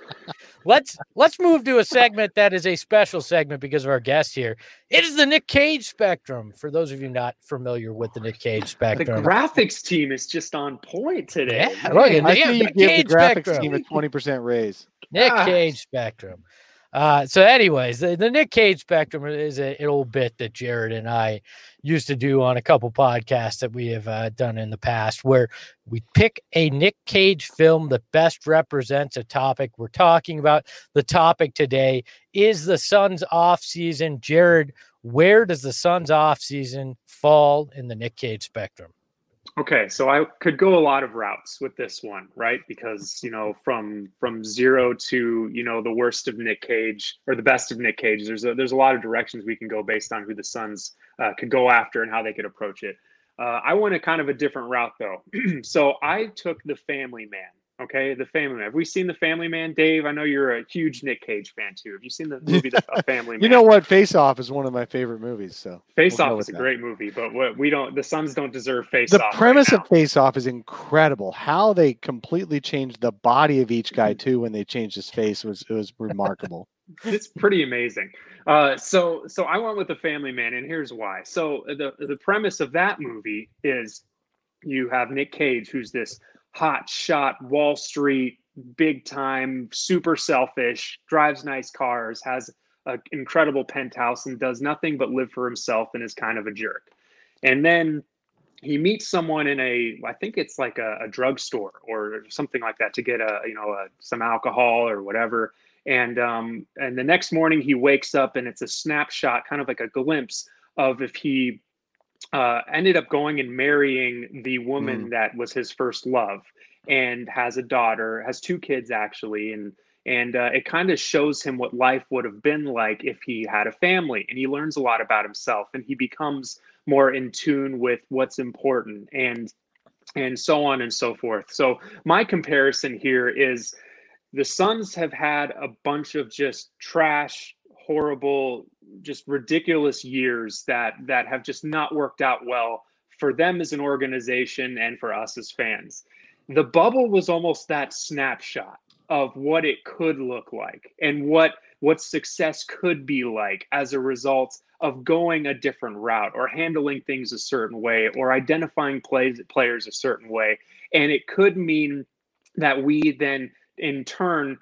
Let's let's move to a segment that is a special segment because of our guest here. It is the Nick Cage Spectrum. For those of you not familiar with the Nick Cage The Spectrum, graphics team is just on point today. Yeah, Man. look at I Yeah, see you Nick give Cage the graphics Spectrum. team a twenty percent raise. Nick Ah. Cage Spectrum. Uh, so, anyways, the, the Nick Cage Spectrum is a, an old bit that Jared and I used to do on a couple podcasts that we have uh, done in the past, where we pick a Nick Cage film that best represents a topic we're talking about. The topic today is the Suns off season. Jared, where does the Suns off season fall in the Nick Cage spectrum? Okay, so I could go a lot of routes with this one, right? Because, you know, from from zero to, you know, the worst of Nick Cage or the best of Nick Cage, there's a, there's a lot of directions we can go based on who the Suns uh, could go after and how they could approach it. Uh, I went a kind of a different route, though. So I took the family man, Okay, The Family Man. Have we seen The Family Man, Dave? I know you're a huge Nick Cage fan too. Have you seen the movie The a Family Man? You know what? Face Off is one of my favorite movies. So Face we'll Off is a that. great movie, but what we don't, the Suns don't deserve Face the Off. The premise right of Face Off is incredible. How they completely changed the body of each guy too when they changed his face was it was remarkable. It's pretty amazing. Uh, so so I went with The Family Man, and here's why. So the the premise of that movie is you have Nick Cage, who's this hot shot Wall Street, big time, super selfish, drives nice cars, has an incredible penthouse, and does nothing but live for himself and is kind of a jerk. And then he meets someone in a, I think it's like a, a drugstore or something like that to get a, you know, a, some alcohol or whatever. And um, and the next morning he wakes up and it's a snapshot, kind of like a glimpse of if he uh, ended up going and marrying the woman mm. that was his first love, and has a daughter, has two kids actually, and and uh, it kind of shows him what life would have been like if he had a family, and he learns a lot about himself, and he becomes more in tune with what's important, and and so on and so forth. So my comparison here is the Suns have had a bunch of just trash, horrible, just ridiculous years that that have just not worked out well for them as an organization and for us as fans. The bubble was almost that snapshot of what it could look like and what what success could be like as a result of going a different route or handling things a certain way or identifying plays, players a certain way. And it could mean that we then in turn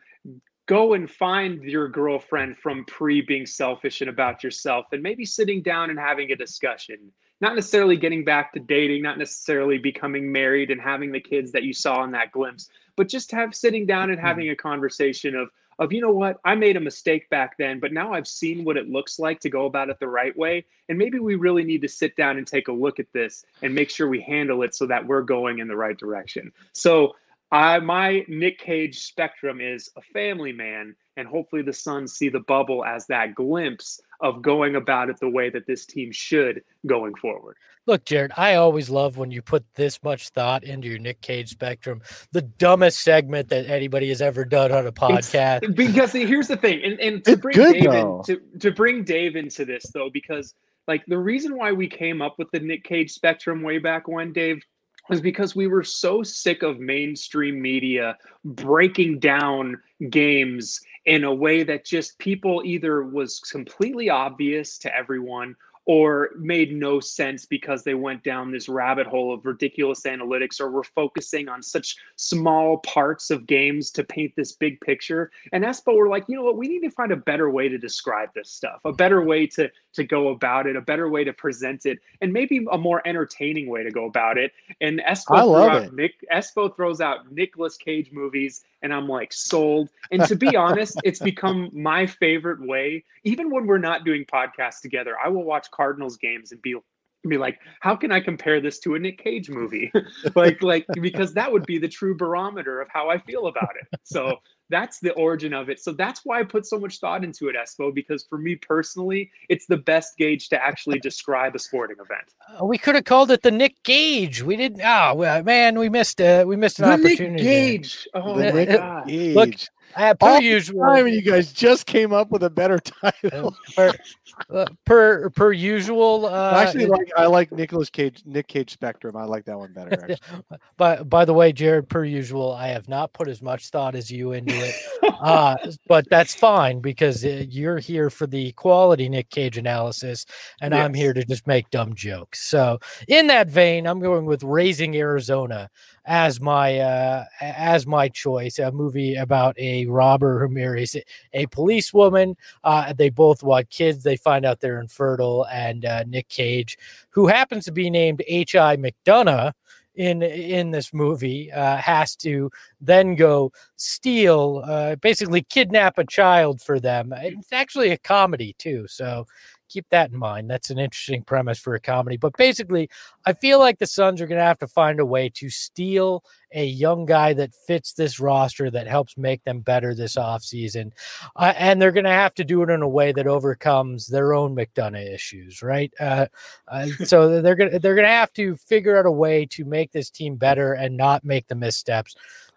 go and find your girlfriend from pre being selfish and about yourself, and maybe sitting down and having a discussion, not necessarily getting back to dating, not necessarily becoming married and having the kids that you saw in that glimpse, but just have sitting down and having a conversation of, of, you know what, I made a mistake back then, but now I've seen what it looks like to go about it the right way. And maybe we really need to sit down and take a look at this and make sure we handle it so that we're going in the right direction. So I, my Nick Cage spectrum is A Family Man, and hopefully the Suns see the bubble as that glimpse of going about it the way that this team should going forward. Look, Jared, I always love when you put this much thought into your Nick Cage spectrum, the dumbest segment that anybody has ever done on a podcast. It's, because here's the thing, and, and to it's bring good, Dave though. in, to, to bring Dave into this, though, because like the reason why we came up with the Nick Cage spectrum way back when, Dave, was because we were so sick of mainstream media breaking down games in a way that just people either was completely obvious to everyone or made no sense because they went down this rabbit hole of ridiculous analytics or were focusing on such small parts of games to paint this big picture. And Espo were like, you know what, we need to find a better way to describe this stuff, a better way to, to go about it, a better way to present it, and maybe a more entertaining way to go about it. And Espo, I threw love out it. Nick, Espo throws out Nicolas Cage movies, and I'm like, sold. And to be honest, it's become my favorite way. Even when we're not doing podcasts together, I will watch Cardinals games and be be like, how can I compare this to a Nick Cage movie? like, like because that would be the true barometer of how I feel about it. So that's the origin of it. So that's why I put so much thought into it, Espo, because for me personally, it's the best gauge to actually describe a sporting event. Uh, we could have called it the Nick Gage. We didn't. Oh, well, man, we missed. Uh, we missed an the opportunity. Nick Gage. Oh the my Nick God. Gage. Look, Uh, per All usual, time, you guys just came up with a better title. per, uh, per per usual. Uh, Actually, like I like Nicolas Cage, Nick Cage Spectrum. I like that one better. Actually. But by the way, Jared, per usual, I have not put as much thought as you into it, uh, but that's fine because uh, you're here for the quality Nick Cage analysis, and Yes. I'm here to just make dumb jokes. So, in that vein, I'm going with Raising Arizona as my uh, as my choice. A movie about a robber who marries a policewoman. Uh, they both want kids. They find out they're infertile, and uh, Nick Cage, who happens to be named H I McDonough in in this movie, uh, has to then go steal, uh, basically kidnap a child for them. It's actually a comedy too, so keep that in mind. That's an interesting premise for a comedy. But basically, I feel like the Suns are going to have to find a way to steal a young guy that fits this roster that helps make them better this offseason. Uh, and they're going to have to do it in a way that overcomes their own McDonough issues, right? Uh, uh, so they're going to they're going to have to figure out a way to make this team better and not make the missteps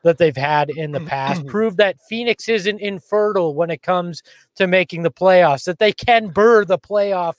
that they've had in the past. Prove that Phoenix isn't infertile when it comes to making the playoffs, that they can burr the playoff,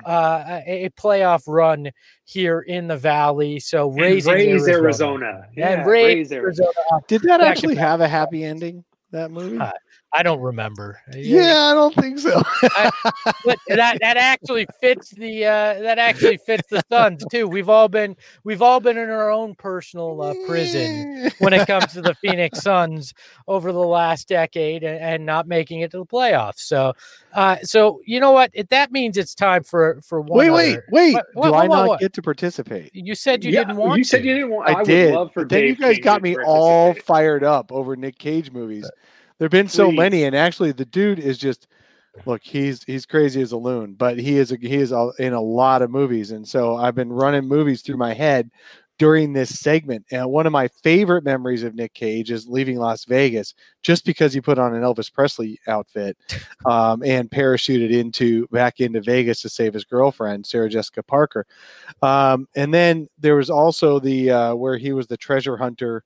uh, a, a playoff run here in the Valley. So raising raise Arizona, Arizona. Yeah, and raise, raise Arizona. Arizona. Did that Back actually to back. have a happy ending? That movie? Uh, I don't remember. Yeah, I don't think so. I, but that that actually fits the uh, that actually fits the Suns too. We've all been we've all been in our own personal uh, prison when it comes to the Phoenix Suns over the last decade and, and not making it to the playoffs. So, uh, so you know what? It, that means it's time for for one. Wait, wait, other. wait! What, Do what, I what, not what? get to participate? You said you yeah, didn't want. You said to. you didn't want. I, I did. would love for but then Dave you guys King got to me all participate. fired up over Nick Cage movies. There've been so Please. many, and actually, the dude is just look. He's he's crazy as a loon, but he is a, he is a, in a lot of movies, and so I've been running movies through my head during this segment. And one of my favorite memories of Nick Cage is leaving Las Vegas, just because he put on an Elvis Presley outfit um, and parachuted into back into Vegas to save his girlfriend, Sarah Jessica Parker. Um, and then there was also the uh, where he was the treasure hunter.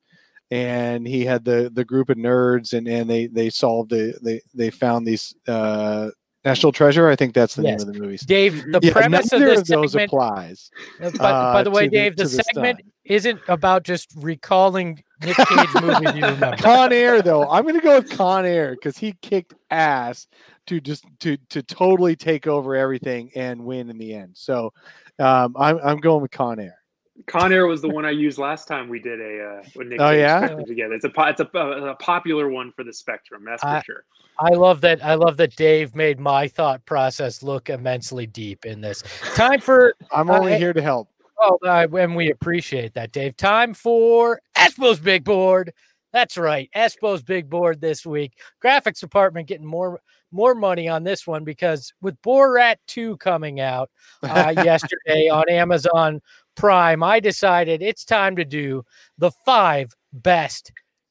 And he had the the group of nerds, and, and they they solved the they they found these uh, National Treasure. I think that's the Yes. name of the movies. Dave, the Yeah, premise of neither this of those segment. applies. Uh, by, uh, by the way, to the- Dave, the, to the segment stunt. isn't about just recalling Nick Cage movies you remember. Con Air, though, I'm going to go with Con Air because he kicked ass to just to to totally take over everything and win in the end. So um, I'm I'm going with Con Air. Con Air was the one I used last time we did a uh, with Nick Oh, Cage yeah? Spectrum together. It's a po- it's a, a popular one for the Spectrum. That's for I- sure. I love that. I love that Dave made my thought process look immensely deep in this. Time for I'm Uh, only hey- here to help. oh, uh, and we appreciate that, Dave. Time for Espo's big board. That's right, Espo's big board this week. Graphics department getting more more money on this one because with Borat two coming out uh, yesterday on Amazon Prime, I decided it's time to do the five best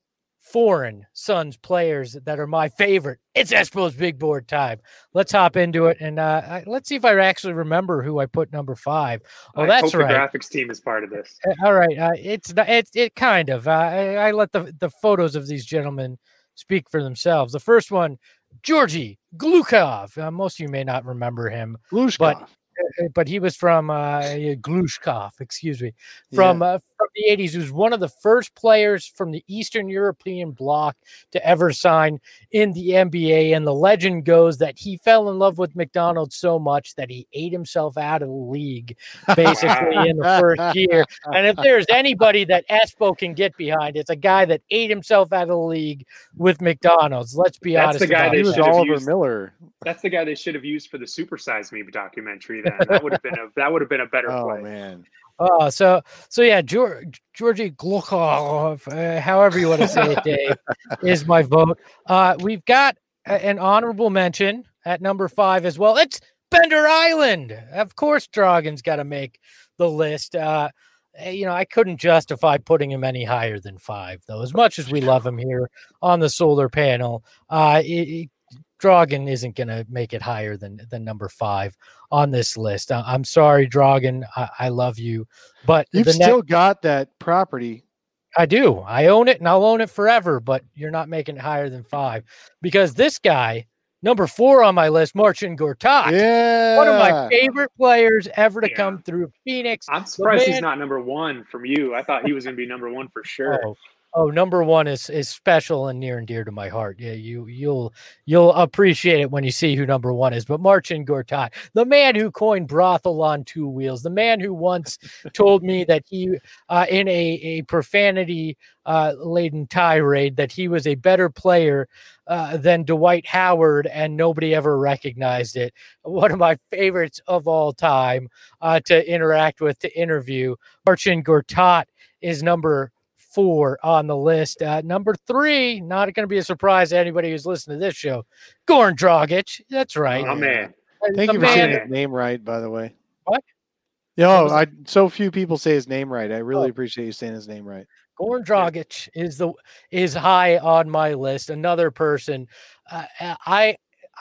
foreign Suns players that are my favorite. It's Espo's big board time. Let's hop into it and uh, I- let's see if I actually remember who I put number five. Oh, I that's hope right. the graphics team is part of this. Uh, All right, uh, it's not- it's it kind of. Uh, I, I let the the photos of these gentlemen speak for themselves. The first one, Georgy Glukov. Uh, most of you may not remember him, Glushkov. but uh, but he was from uh, Glushkov, excuse me, from uh, from the eighties. He was one of the first players from the Eastern European bloc to ever sign in the N B A. And the legend goes that he fell in love with McDonald's so much that he ate himself out of the league, basically in the first year. And if there's anybody that Espo can get behind, it's a guy that ate himself out of the league with McDonald's. Let's be That's honest. the guy about they he that. was should have Oliver used- Miller. That's the guy they should have used for the Super Size Me documentary. Then that would have been a that would have been a better Oh play. man. Oh, so so yeah, George, Georgy Glukov, uh, however you want to say it, Dave, is my vote. Uh, we've got a- an honorable mention at number five as well. It's Bender Island. Of course, Dragon's got to make the list. Uh, eh, you know, I couldn't justify putting him any higher than five, though. As much as we love him here on the solar panel, uh, it, it, Dragon isn't going to make it higher than than number five on this list. I, I'm sorry, Dragon. I, I love you, but You've the still next, got that property. I do. I own it and I'll own it forever. But you're not making it higher than five because this guy, number four on my list, Marcin Gortat, Yeah. one of my favorite players ever to Yeah. come through Phoenix. I'm surprised he's man- not number one from you. I thought he was going to be number one for sure. Oh, oh, number one is is special and near and dear to my heart. Yeah, you you'll you'll appreciate it when you see who number one is. But Marcin Gortat, the man who coined brothel on two wheels, the man who once told me that he, uh, in a a profanity uh, laden tirade, that he was a better player uh, than Dwight Howard, and nobody ever recognized it. One of my favorites of all time uh, to interact with, to interview. Marcin Gortat is number four on the list. Uh, number three, not going to be a surprise to anybody who's listening to this show, Goran Dragic. That's right. Oh man, Thank The you for man- saying man- his name right, by the way. What? Yo, was I so few people say his name right. I really Oh. appreciate you saying his name right. Goran Dragic is the is high on my list. Another person, uh, I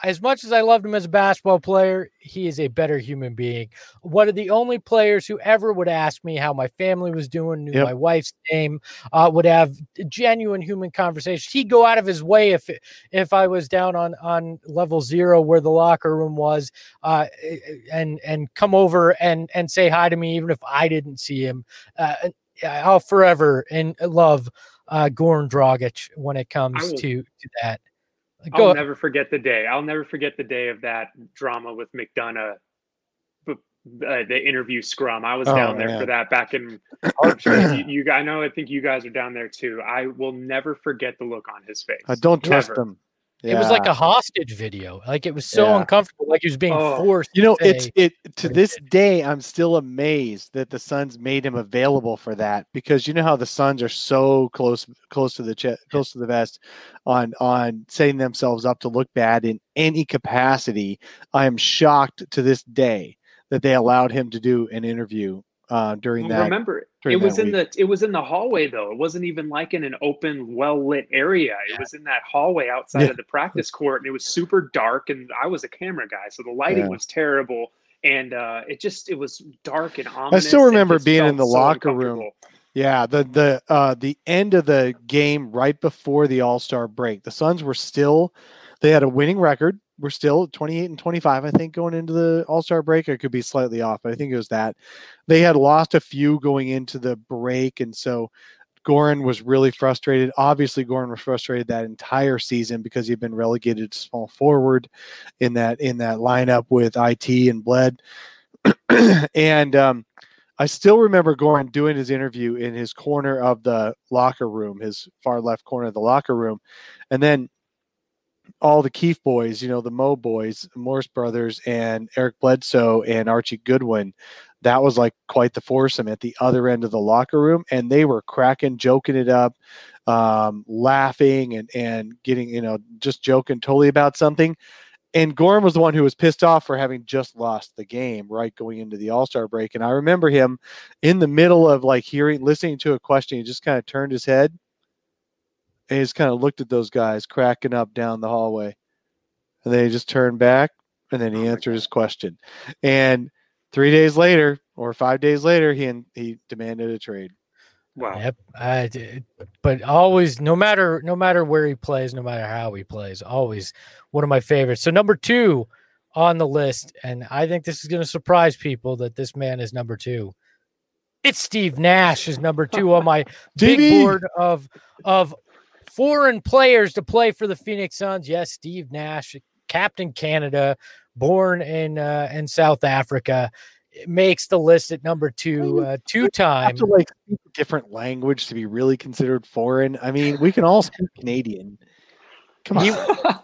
as much as I loved him as a basketball player, he is a better human being. One of the only players who ever would ask me how my family was doing, knew Yep. my wife's name, uh, would have genuine human conversations. He'd go out of his way if if I was down on on level zero where the locker room was, uh, and and come over and and say hi to me, even if I didn't see him. Uh, I'll forever and love uh, Goran Dragic when it comes will- to to that. I'll Go. never forget the day. I'll never forget the day of that drama with McDonough, uh, the interview scrum. I was Oh, down there man. for that back in. I'm sure you, you, I know. I think you guys are down there too. I will never forget the look on his face. I don't trust Never. him. It was like Yeah. a hostage video. Like it was so Yeah. uncomfortable. Like he was being Oh. forced. You know, to it's say- it to what he this did. day. I'm still amazed that the Suns made him available for that, because you know how the Suns are so close, close to the chest, close to the vest, on on setting themselves up to look bad in any capacity. I am shocked to this day that they allowed him to do an interview uh, during Well, that. remember, during it was that in the it was in the hallway though. It wasn't even like in an open, well lit area. It was in that hallway outside Yeah. of the practice court, and it was super dark. And I was a camera guy, so the lighting Yeah. was terrible, and uh, it just it was dark and I ominous. still It remember just being in felt the so locker room. uncomfortable. Yeah, the the uh the end of the game right before the All-Star break. The Suns were still they had a winning record. We're still twenty-eight and twenty-five, I think, going into the All-Star break. I could be slightly off, but I think it was that. They had lost a few going into the break, and so Goran was really frustrated. Obviously, Goran was frustrated that entire season because he'd been relegated to small forward in that in that lineup with I T and Bled. and um I still remember Goran doing his interview in his corner of the locker room, his far left corner of the locker room. And then all the Keefe boys, you know, the Mo boys, Morris brothers, and Eric Bledsoe and Archie Goodwin, that was like quite the foursome at the other end of the locker room. And they were cracking, joking it up, um, laughing and, and getting, you know, just joking totally about something. And Goran was the one who was pissed off for having just lost the game, right, going into the All-Star break. And I remember him in the middle of like hearing, listening to a question, he just kind of turned his head and he just kind of looked at those guys cracking up down the hallway. And then he just turned back and then he Oh my answered God. his question. And three days later or five days later, he he demanded a trade. Wow. Yep. I did. But always, no matter no matter where he plays, no matter how he plays, always one of my favorites. So number two on the list, and I think this is going to surprise people that this man is number two. It's Steve Nash is number two on my big Stevie! board of of foreign players to play for the Phoenix Suns. Yes, Steve Nash, Captain Canada, born in uh, in South Africa. It makes the list at number two, uh, two You time. have to like speak a different language to be really considered foreign. I mean, we can all speak Canadian. Come on.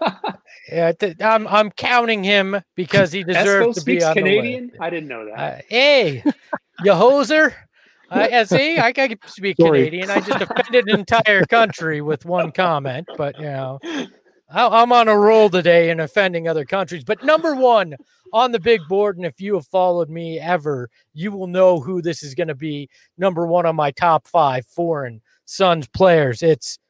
Yeah, th- I'm I'm counting him because he Esco deserves to be speaks on Canadian. the list. I didn't know that. Uh, hey, you hoser! I I see. I can speak Sorry. Canadian. I just offended an entire country with one comment, but you know, I- I'm on a roll today in offending other countries. But number one on the big board, and if you have followed me ever, you will know who this is going to be. Number one on my top five foreign Suns players. It's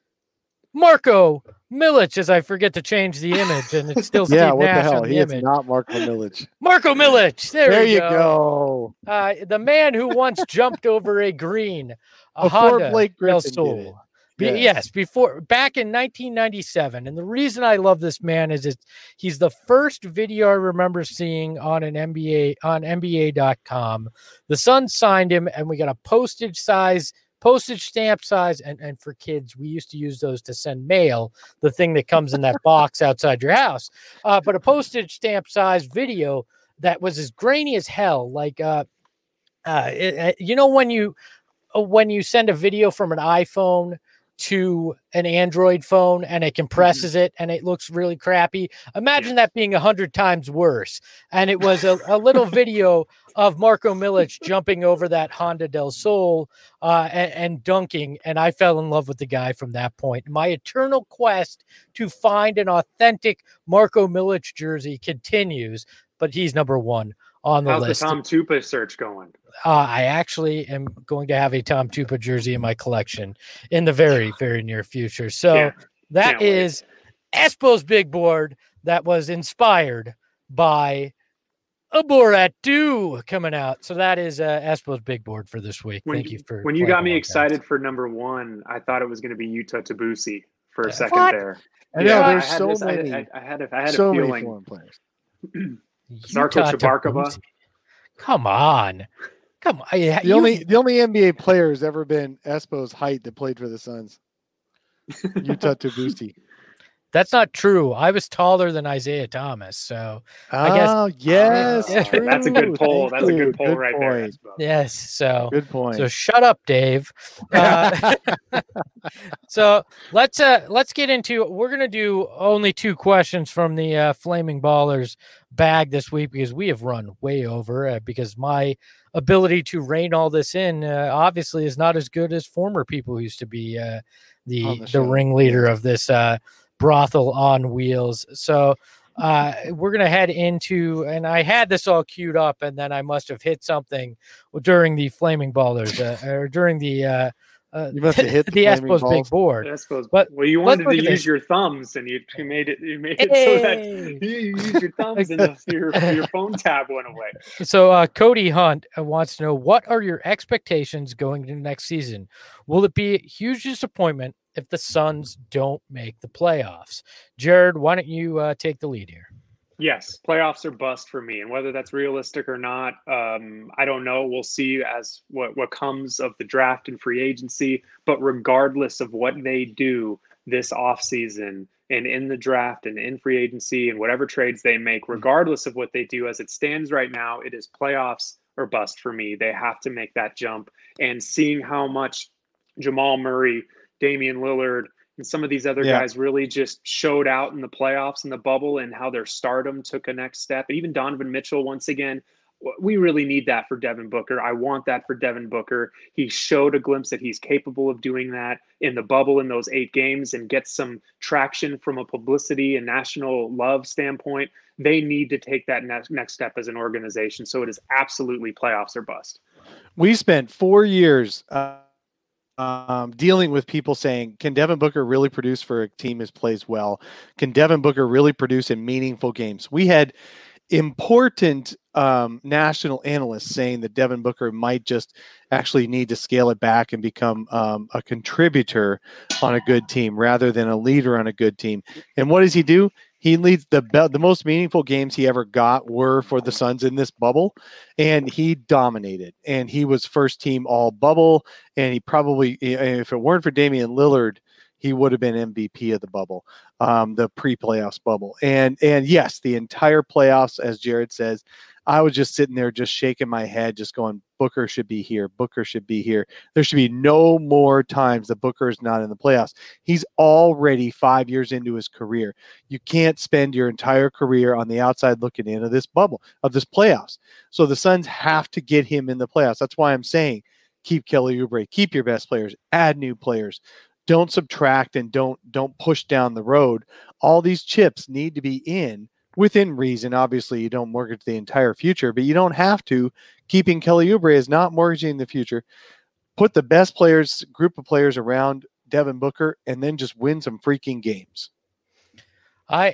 Marko Milic, as I forget to change the image, and it's still yeah, Steve what Nash the hell? on He the is image. not Marco Milic. Marko Milic. There, There you you go. go. Uh, the man who once jumped over a green, a Before Honda Blake Del Griffin did Sol. it. Be- Yes. yes, before back in nineteen ninety-seven. And the reason I love this man is it, he's the first video I remember seeing on an N B A on N B A dot com. The Suns signed him, and we got a postage size, postage stamp size, and, and for kids, we used to use those to send mail, the thing that comes in that box outside your house. Uh, but a postage stamp size video that was as grainy as hell, like uh, uh, it, it- you know when you uh, when you send a video from an iPhone to an Android phone and it compresses it and it looks really crappy. Imagine that being a hundred times worse. And it was a, a little video of Marko Milic jumping over that Honda Del Sol uh, and, and dunking. And I fell in love with the guy from that point. My eternal quest to find an authentic Marko Milic jersey continues, but he's number one on the How's list. the Tom Tupa search going? Uh, I actually am going to have a Tom Tupa jersey in my collection in the very, very near future. So Yeah, that can't wait. is Espo's big board, that was inspired by a Borat two coming out. So that is uh, Espo's big board for this week. When, Thank you for when you playing got me along, excited guys. for number one, I thought it was going to be Yuta Tabusi for a Uh, second what? there. I know Yeah, there's I had so this- I- many, I, I had a, I had so a many feeling. foreign players. Zarko Yuta Chabarkova. Tabusi. Come on. Come on. I- The you- only the only N B A player has ever been Espo's height that played for the Suns. Yuta Tabusi. That's not true. I was taller than Isaiah Thomas. So Oh, guess- yes, Yeah. true. That's a good poll. Thank That's a you. good poll right there. point. Espo. yes. So Good point. So shut up, Dave. Uh, so let's uh let's get into. We're gonna do only two questions from the uh, Flaming Ballers bag this week because we have run way over. Uh, because my ability to rein all this in uh, obviously is not as good as former people who used to be uh, the On the the, show. ringleader of this uh, brothel on wheels. So. Uh, we're gonna head into, and I had this all queued up, and then I must have hit something during the Flaming Ballers, uh, or during the uh, uh, You must have hit the the Flaming Espos Balls. big board. Espo's, But well, you let's wanted look to at use this. your thumbs, and you, you made it. You made it so that Hey! you, you used your thumbs, and the, your your phone tab went away. So uh, Cody Hunt uh, wants to know, what are your expectations going into next season? Will it be a huge disappointment if the Suns don't make the playoffs? Jared, why don't you uh, take the lead here? Yes, playoffs are bust for me, and whether that's realistic or not, um, I don't know. We'll see as what what comes of the draft and free agency. But regardless of what they do this offseason and in the draft and in free agency and whatever trades they make, regardless of what they do as it stands right now, it is playoffs or bust for me. They have to make that jump. And seeing how much Jamal Murray, Damian Lillard, and some of these other Yeah. guys really just showed out in the playoffs and the bubble, and how their stardom took a next step. And even Donovan Mitchell, once again, we really need that for Devin Booker. I want that for Devin Booker. He showed a glimpse that he's capable of doing that in the bubble in those eight games and get some traction from a publicity and national love standpoint. They need to take that next next step as an organization. So it is absolutely playoffs or bust. We spent four years uh, um, dealing with people saying, can Devin Booker really produce for a team that plays well? Can Devin Booker really produce in meaningful games? We had important um, national analysts saying that Devin Booker might just actually need to scale it back and become um, a contributor on a good team rather than a leader on a good team. And what does he do? He leads the be- the most meaningful games he ever got were for the Suns in this bubble, and he dominated. And he was first team all bubble, and he probably, if it weren't for Damian Lillard, he would have been M V P of the bubble, um, the pre-playoffs bubble. And and yes, the entire playoffs, as Jared says, I was just sitting there just shaking my head, just going, Booker should be here. Booker should be here. There should be no more times that Booker is not in the playoffs. He's already five years into his career. You can't spend your entire career on the outside looking in of this bubble, of this playoffs. So the Suns have to get him in the playoffs. That's why I'm saying keep Kelly Oubre, keep your best players, add new players. Don't subtract and don't don't push down the road. All these chips need to be in within reason. Obviously, you don't mortgage the entire future, but you don't have to. Keeping Kelly Oubre is not mortgaging the future. Put the best players, group of players around Devin Booker, and then just win some freaking games. I,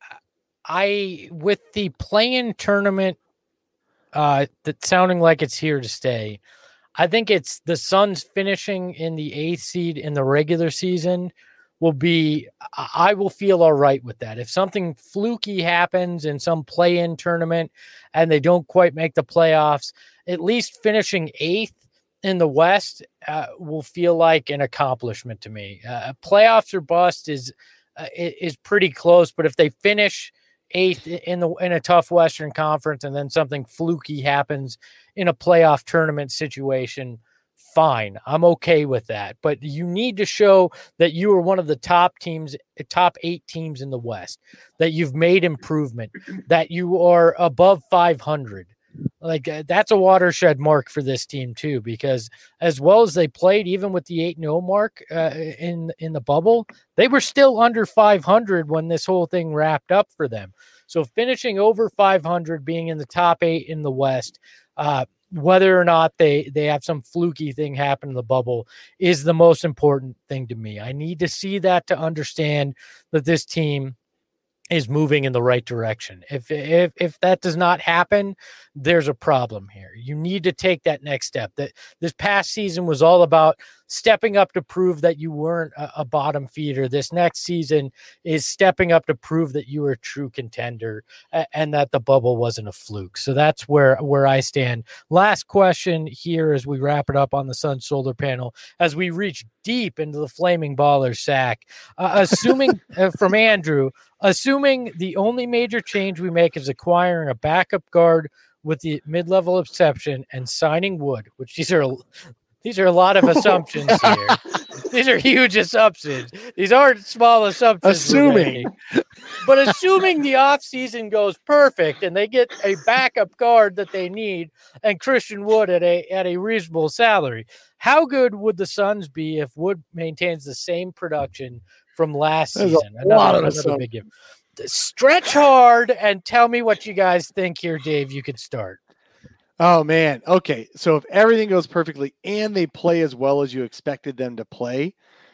I with the play-in tournament, uh, that sounding like it's here to stay. I think it's the Suns finishing in the eighth seed in the regular season will be, I will feel all right with that. If something fluky happens in some play-in tournament and they don't quite make the playoffs, at least finishing eighth in the West uh, will feel like an accomplishment to me. Uh, playoffs or bust is uh, is pretty close, but if they finish eighth in the in a tough Western Conference and then something fluky happens in a playoff tournament situation, fine. I'm okay with that. But you need to show that you are one of the top teams, top eight teams in the West, that you've made improvement, that you are above five hundred. Like uh, that's a watershed mark for this team too, because as well as they played, even with the eight and oh mark uh, in in the bubble, they were still under five hundred when this whole thing wrapped up for them. So finishing over five hundred, being in the top eight in the West, uh, whether or not they they have some fluky thing happen in the bubble is the most important thing to me. I need to see that to understand that this team is moving in the right direction. If if if that does not happen, there's a problem here. You need to take that next step. That this past season was all about stepping up to prove that you weren't a, a bottom feeder. This next season is stepping up to prove that you were a true contender and, and that the bubble wasn't a fluke. So that's where where I stand. Last question here as we wrap it up on the Sun Solar Panel, as we reach deep into the Flaming Baller sack. Uh, assuming uh, from Andrew, assuming the only major change we make is acquiring a backup guard with the mid-level exception and signing Wood, which these are these are a lot of assumptions here. These are huge assumptions. These aren't small assumptions. Assuming. But assuming the offseason goes perfect and they get a backup guard that they need and Christian Wood at a at a reasonable salary, how good would the Suns be if Wood maintains the same production from last There's season? a lot of another big give. Stretch hard and tell me what you guys think here, Dave. You could start. Oh, man. Okay. So if everything goes perfectly and they play as well as you expected them to play,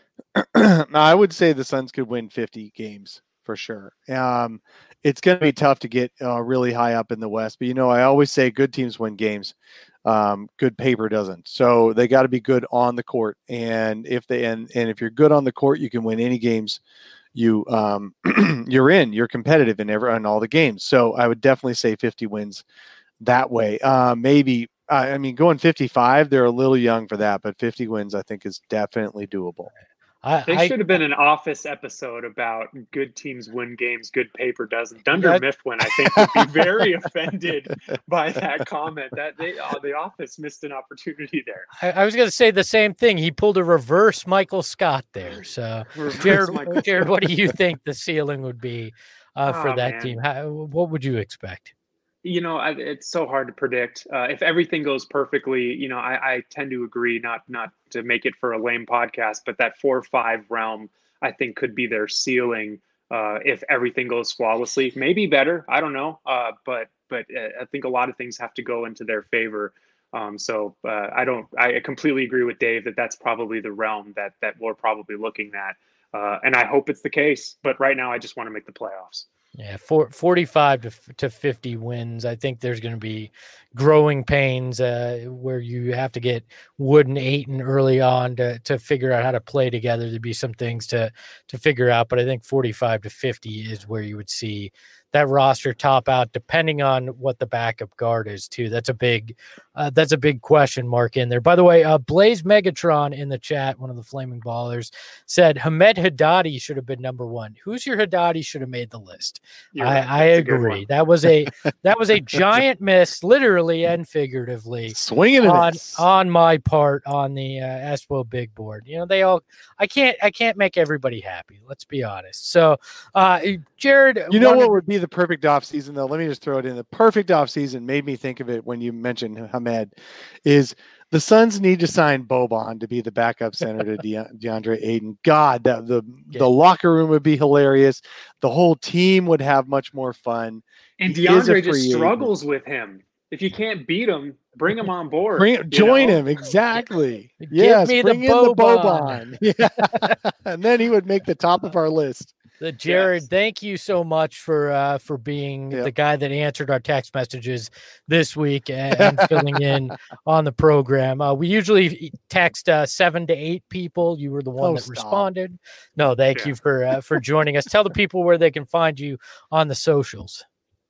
I would say the Suns could win fifty games for sure. Um, it's going to be tough to get uh, really high up in the West. But, you know, I always say good teams win games. Um, good paper doesn't. So they got to be good on the court. And if they and, and if you're good on the court, you can win any games you um, you're in. You're competitive in every in all the games. So I would definitely say fifty wins that way. Uh, maybe, uh, I mean, going fifty-five, they're a little young for that, but fifty wins, I think, is definitely doable. I, There I, should have been an Office episode about good teams win games, good paper doesn't. Dunder Yeah. Mifflin, I think, would be very offended by that comment. That they, uh, the Office missed an opportunity there. I, I was going to say the same thing. He pulled a reverse Michael Scott there. So, Reverse Jared, Michael Jared, what do you think the ceiling would be uh, for Oh, that man. team? How, what would you expect? You know, I, it's so hard to predict. Uh, if everything goes perfectly, you know, I, I tend to agree. Not not to make it for a lame podcast, but that four or five realm, I think, could be their ceiling uh, if everything goes flawlessly. Maybe better. I don't know. Uh, but but uh, I think a lot of things have to go into their favor. Um, so uh, I don't. I completely agree with Dave that that's probably the realm that that we're probably looking at. Uh, and I hope it's the case. But right now, I just want to make the playoffs. Yeah, for, forty-five to, to fifty wins. I think there's going to be growing pains uh, where you have to get Wood and Ayton early on to, to figure out how to play together. There'd be some things to, to figure out, but I think forty-five to fifty is where you would see that roster top out, depending on what the backup guard is too. That's a big, uh, that's a big question mark in there. By the way, uh, Blaze Megatron in the chat, one of the Flaming Ballers, said Hamed Haddadi should have been number one. Who's your Haddadi should have made the list? You're I, right. I That's a good agree. one. That was a that was a giant miss, literally and figuratively, Swinging on and on my part on the uh, Espo big board. You know, they all. I can't I can't make everybody happy. Let's be honest. So, uh, Jared, You know wanted- what would be the perfect off season though? Let me just throw it in. The perfect off season made me think of it when you mentioned Hamed. Is the Suns need to sign Boban to be the backup center to De- DeAndre Ayton. God, that the Yeah. the locker room would be hilarious. The whole team would have much more fun. And He is a DeAndre just free agent. struggles with him. If you can't beat him, bring him on board. Bring you join know? him exactly. Give Yes, me the bring in the Boban. Boban. Yeah, and then he would make the top of our list. The Jared, Yes. thank you so much for uh, for being Yep. the guy that answered our text messages this week and, and filling in on the program. Uh, we usually text uh, seven to eight people. You were the one Oh, that stop. responded. No, thank Yeah. you for uh, for joining us. Tell the people where they can find you on the socials.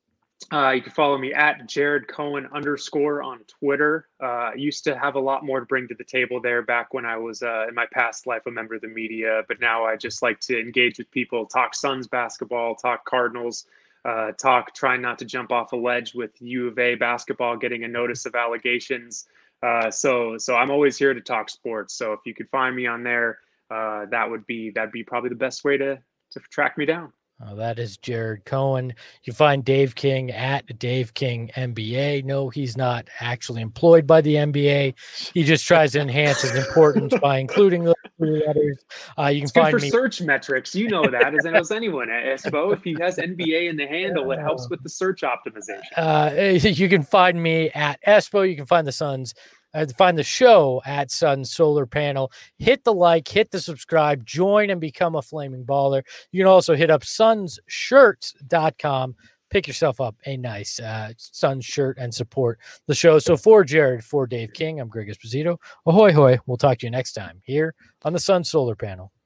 Uh, you can follow me at Jared Cohen underscore on Twitter. Uh, I used to have a lot more to bring to the table there back when I was uh, in my past life a member of the media, but now I just like to engage with people, talk Suns basketball, talk Cardinals, uh, talk trying not to jump off a ledge with U of A basketball, getting a notice of allegations. Uh, so, so I'm always here to talk sports. So if you could find me on there, uh, that would be that'd be probably the best way to to track me down. Uh, that is Jared Cohen. You find Dave King at Dave King N B A. No, he's not actually employed by the N B A. He just tries to enhance his importance by including those three letters. Uh, you can It's good find for me. search metrics. You know that as knows anyone. Espo, if he has N B A in the handle, it helps with the search optimization. Uh, you can find me at Espo. You can find the Suns uh, find the show at Sun Solar Panel. Hit the like, hit the subscribe, join and become a Flaming Baller. You can also hit up suns shirts dot com. Pick yourself up a nice uh, Suns shirt and support the show. So for Jared, for Dave King, I'm Greg Esposito. Ahoy, hoy. We'll talk to you next time here on the Sun Solar Panel.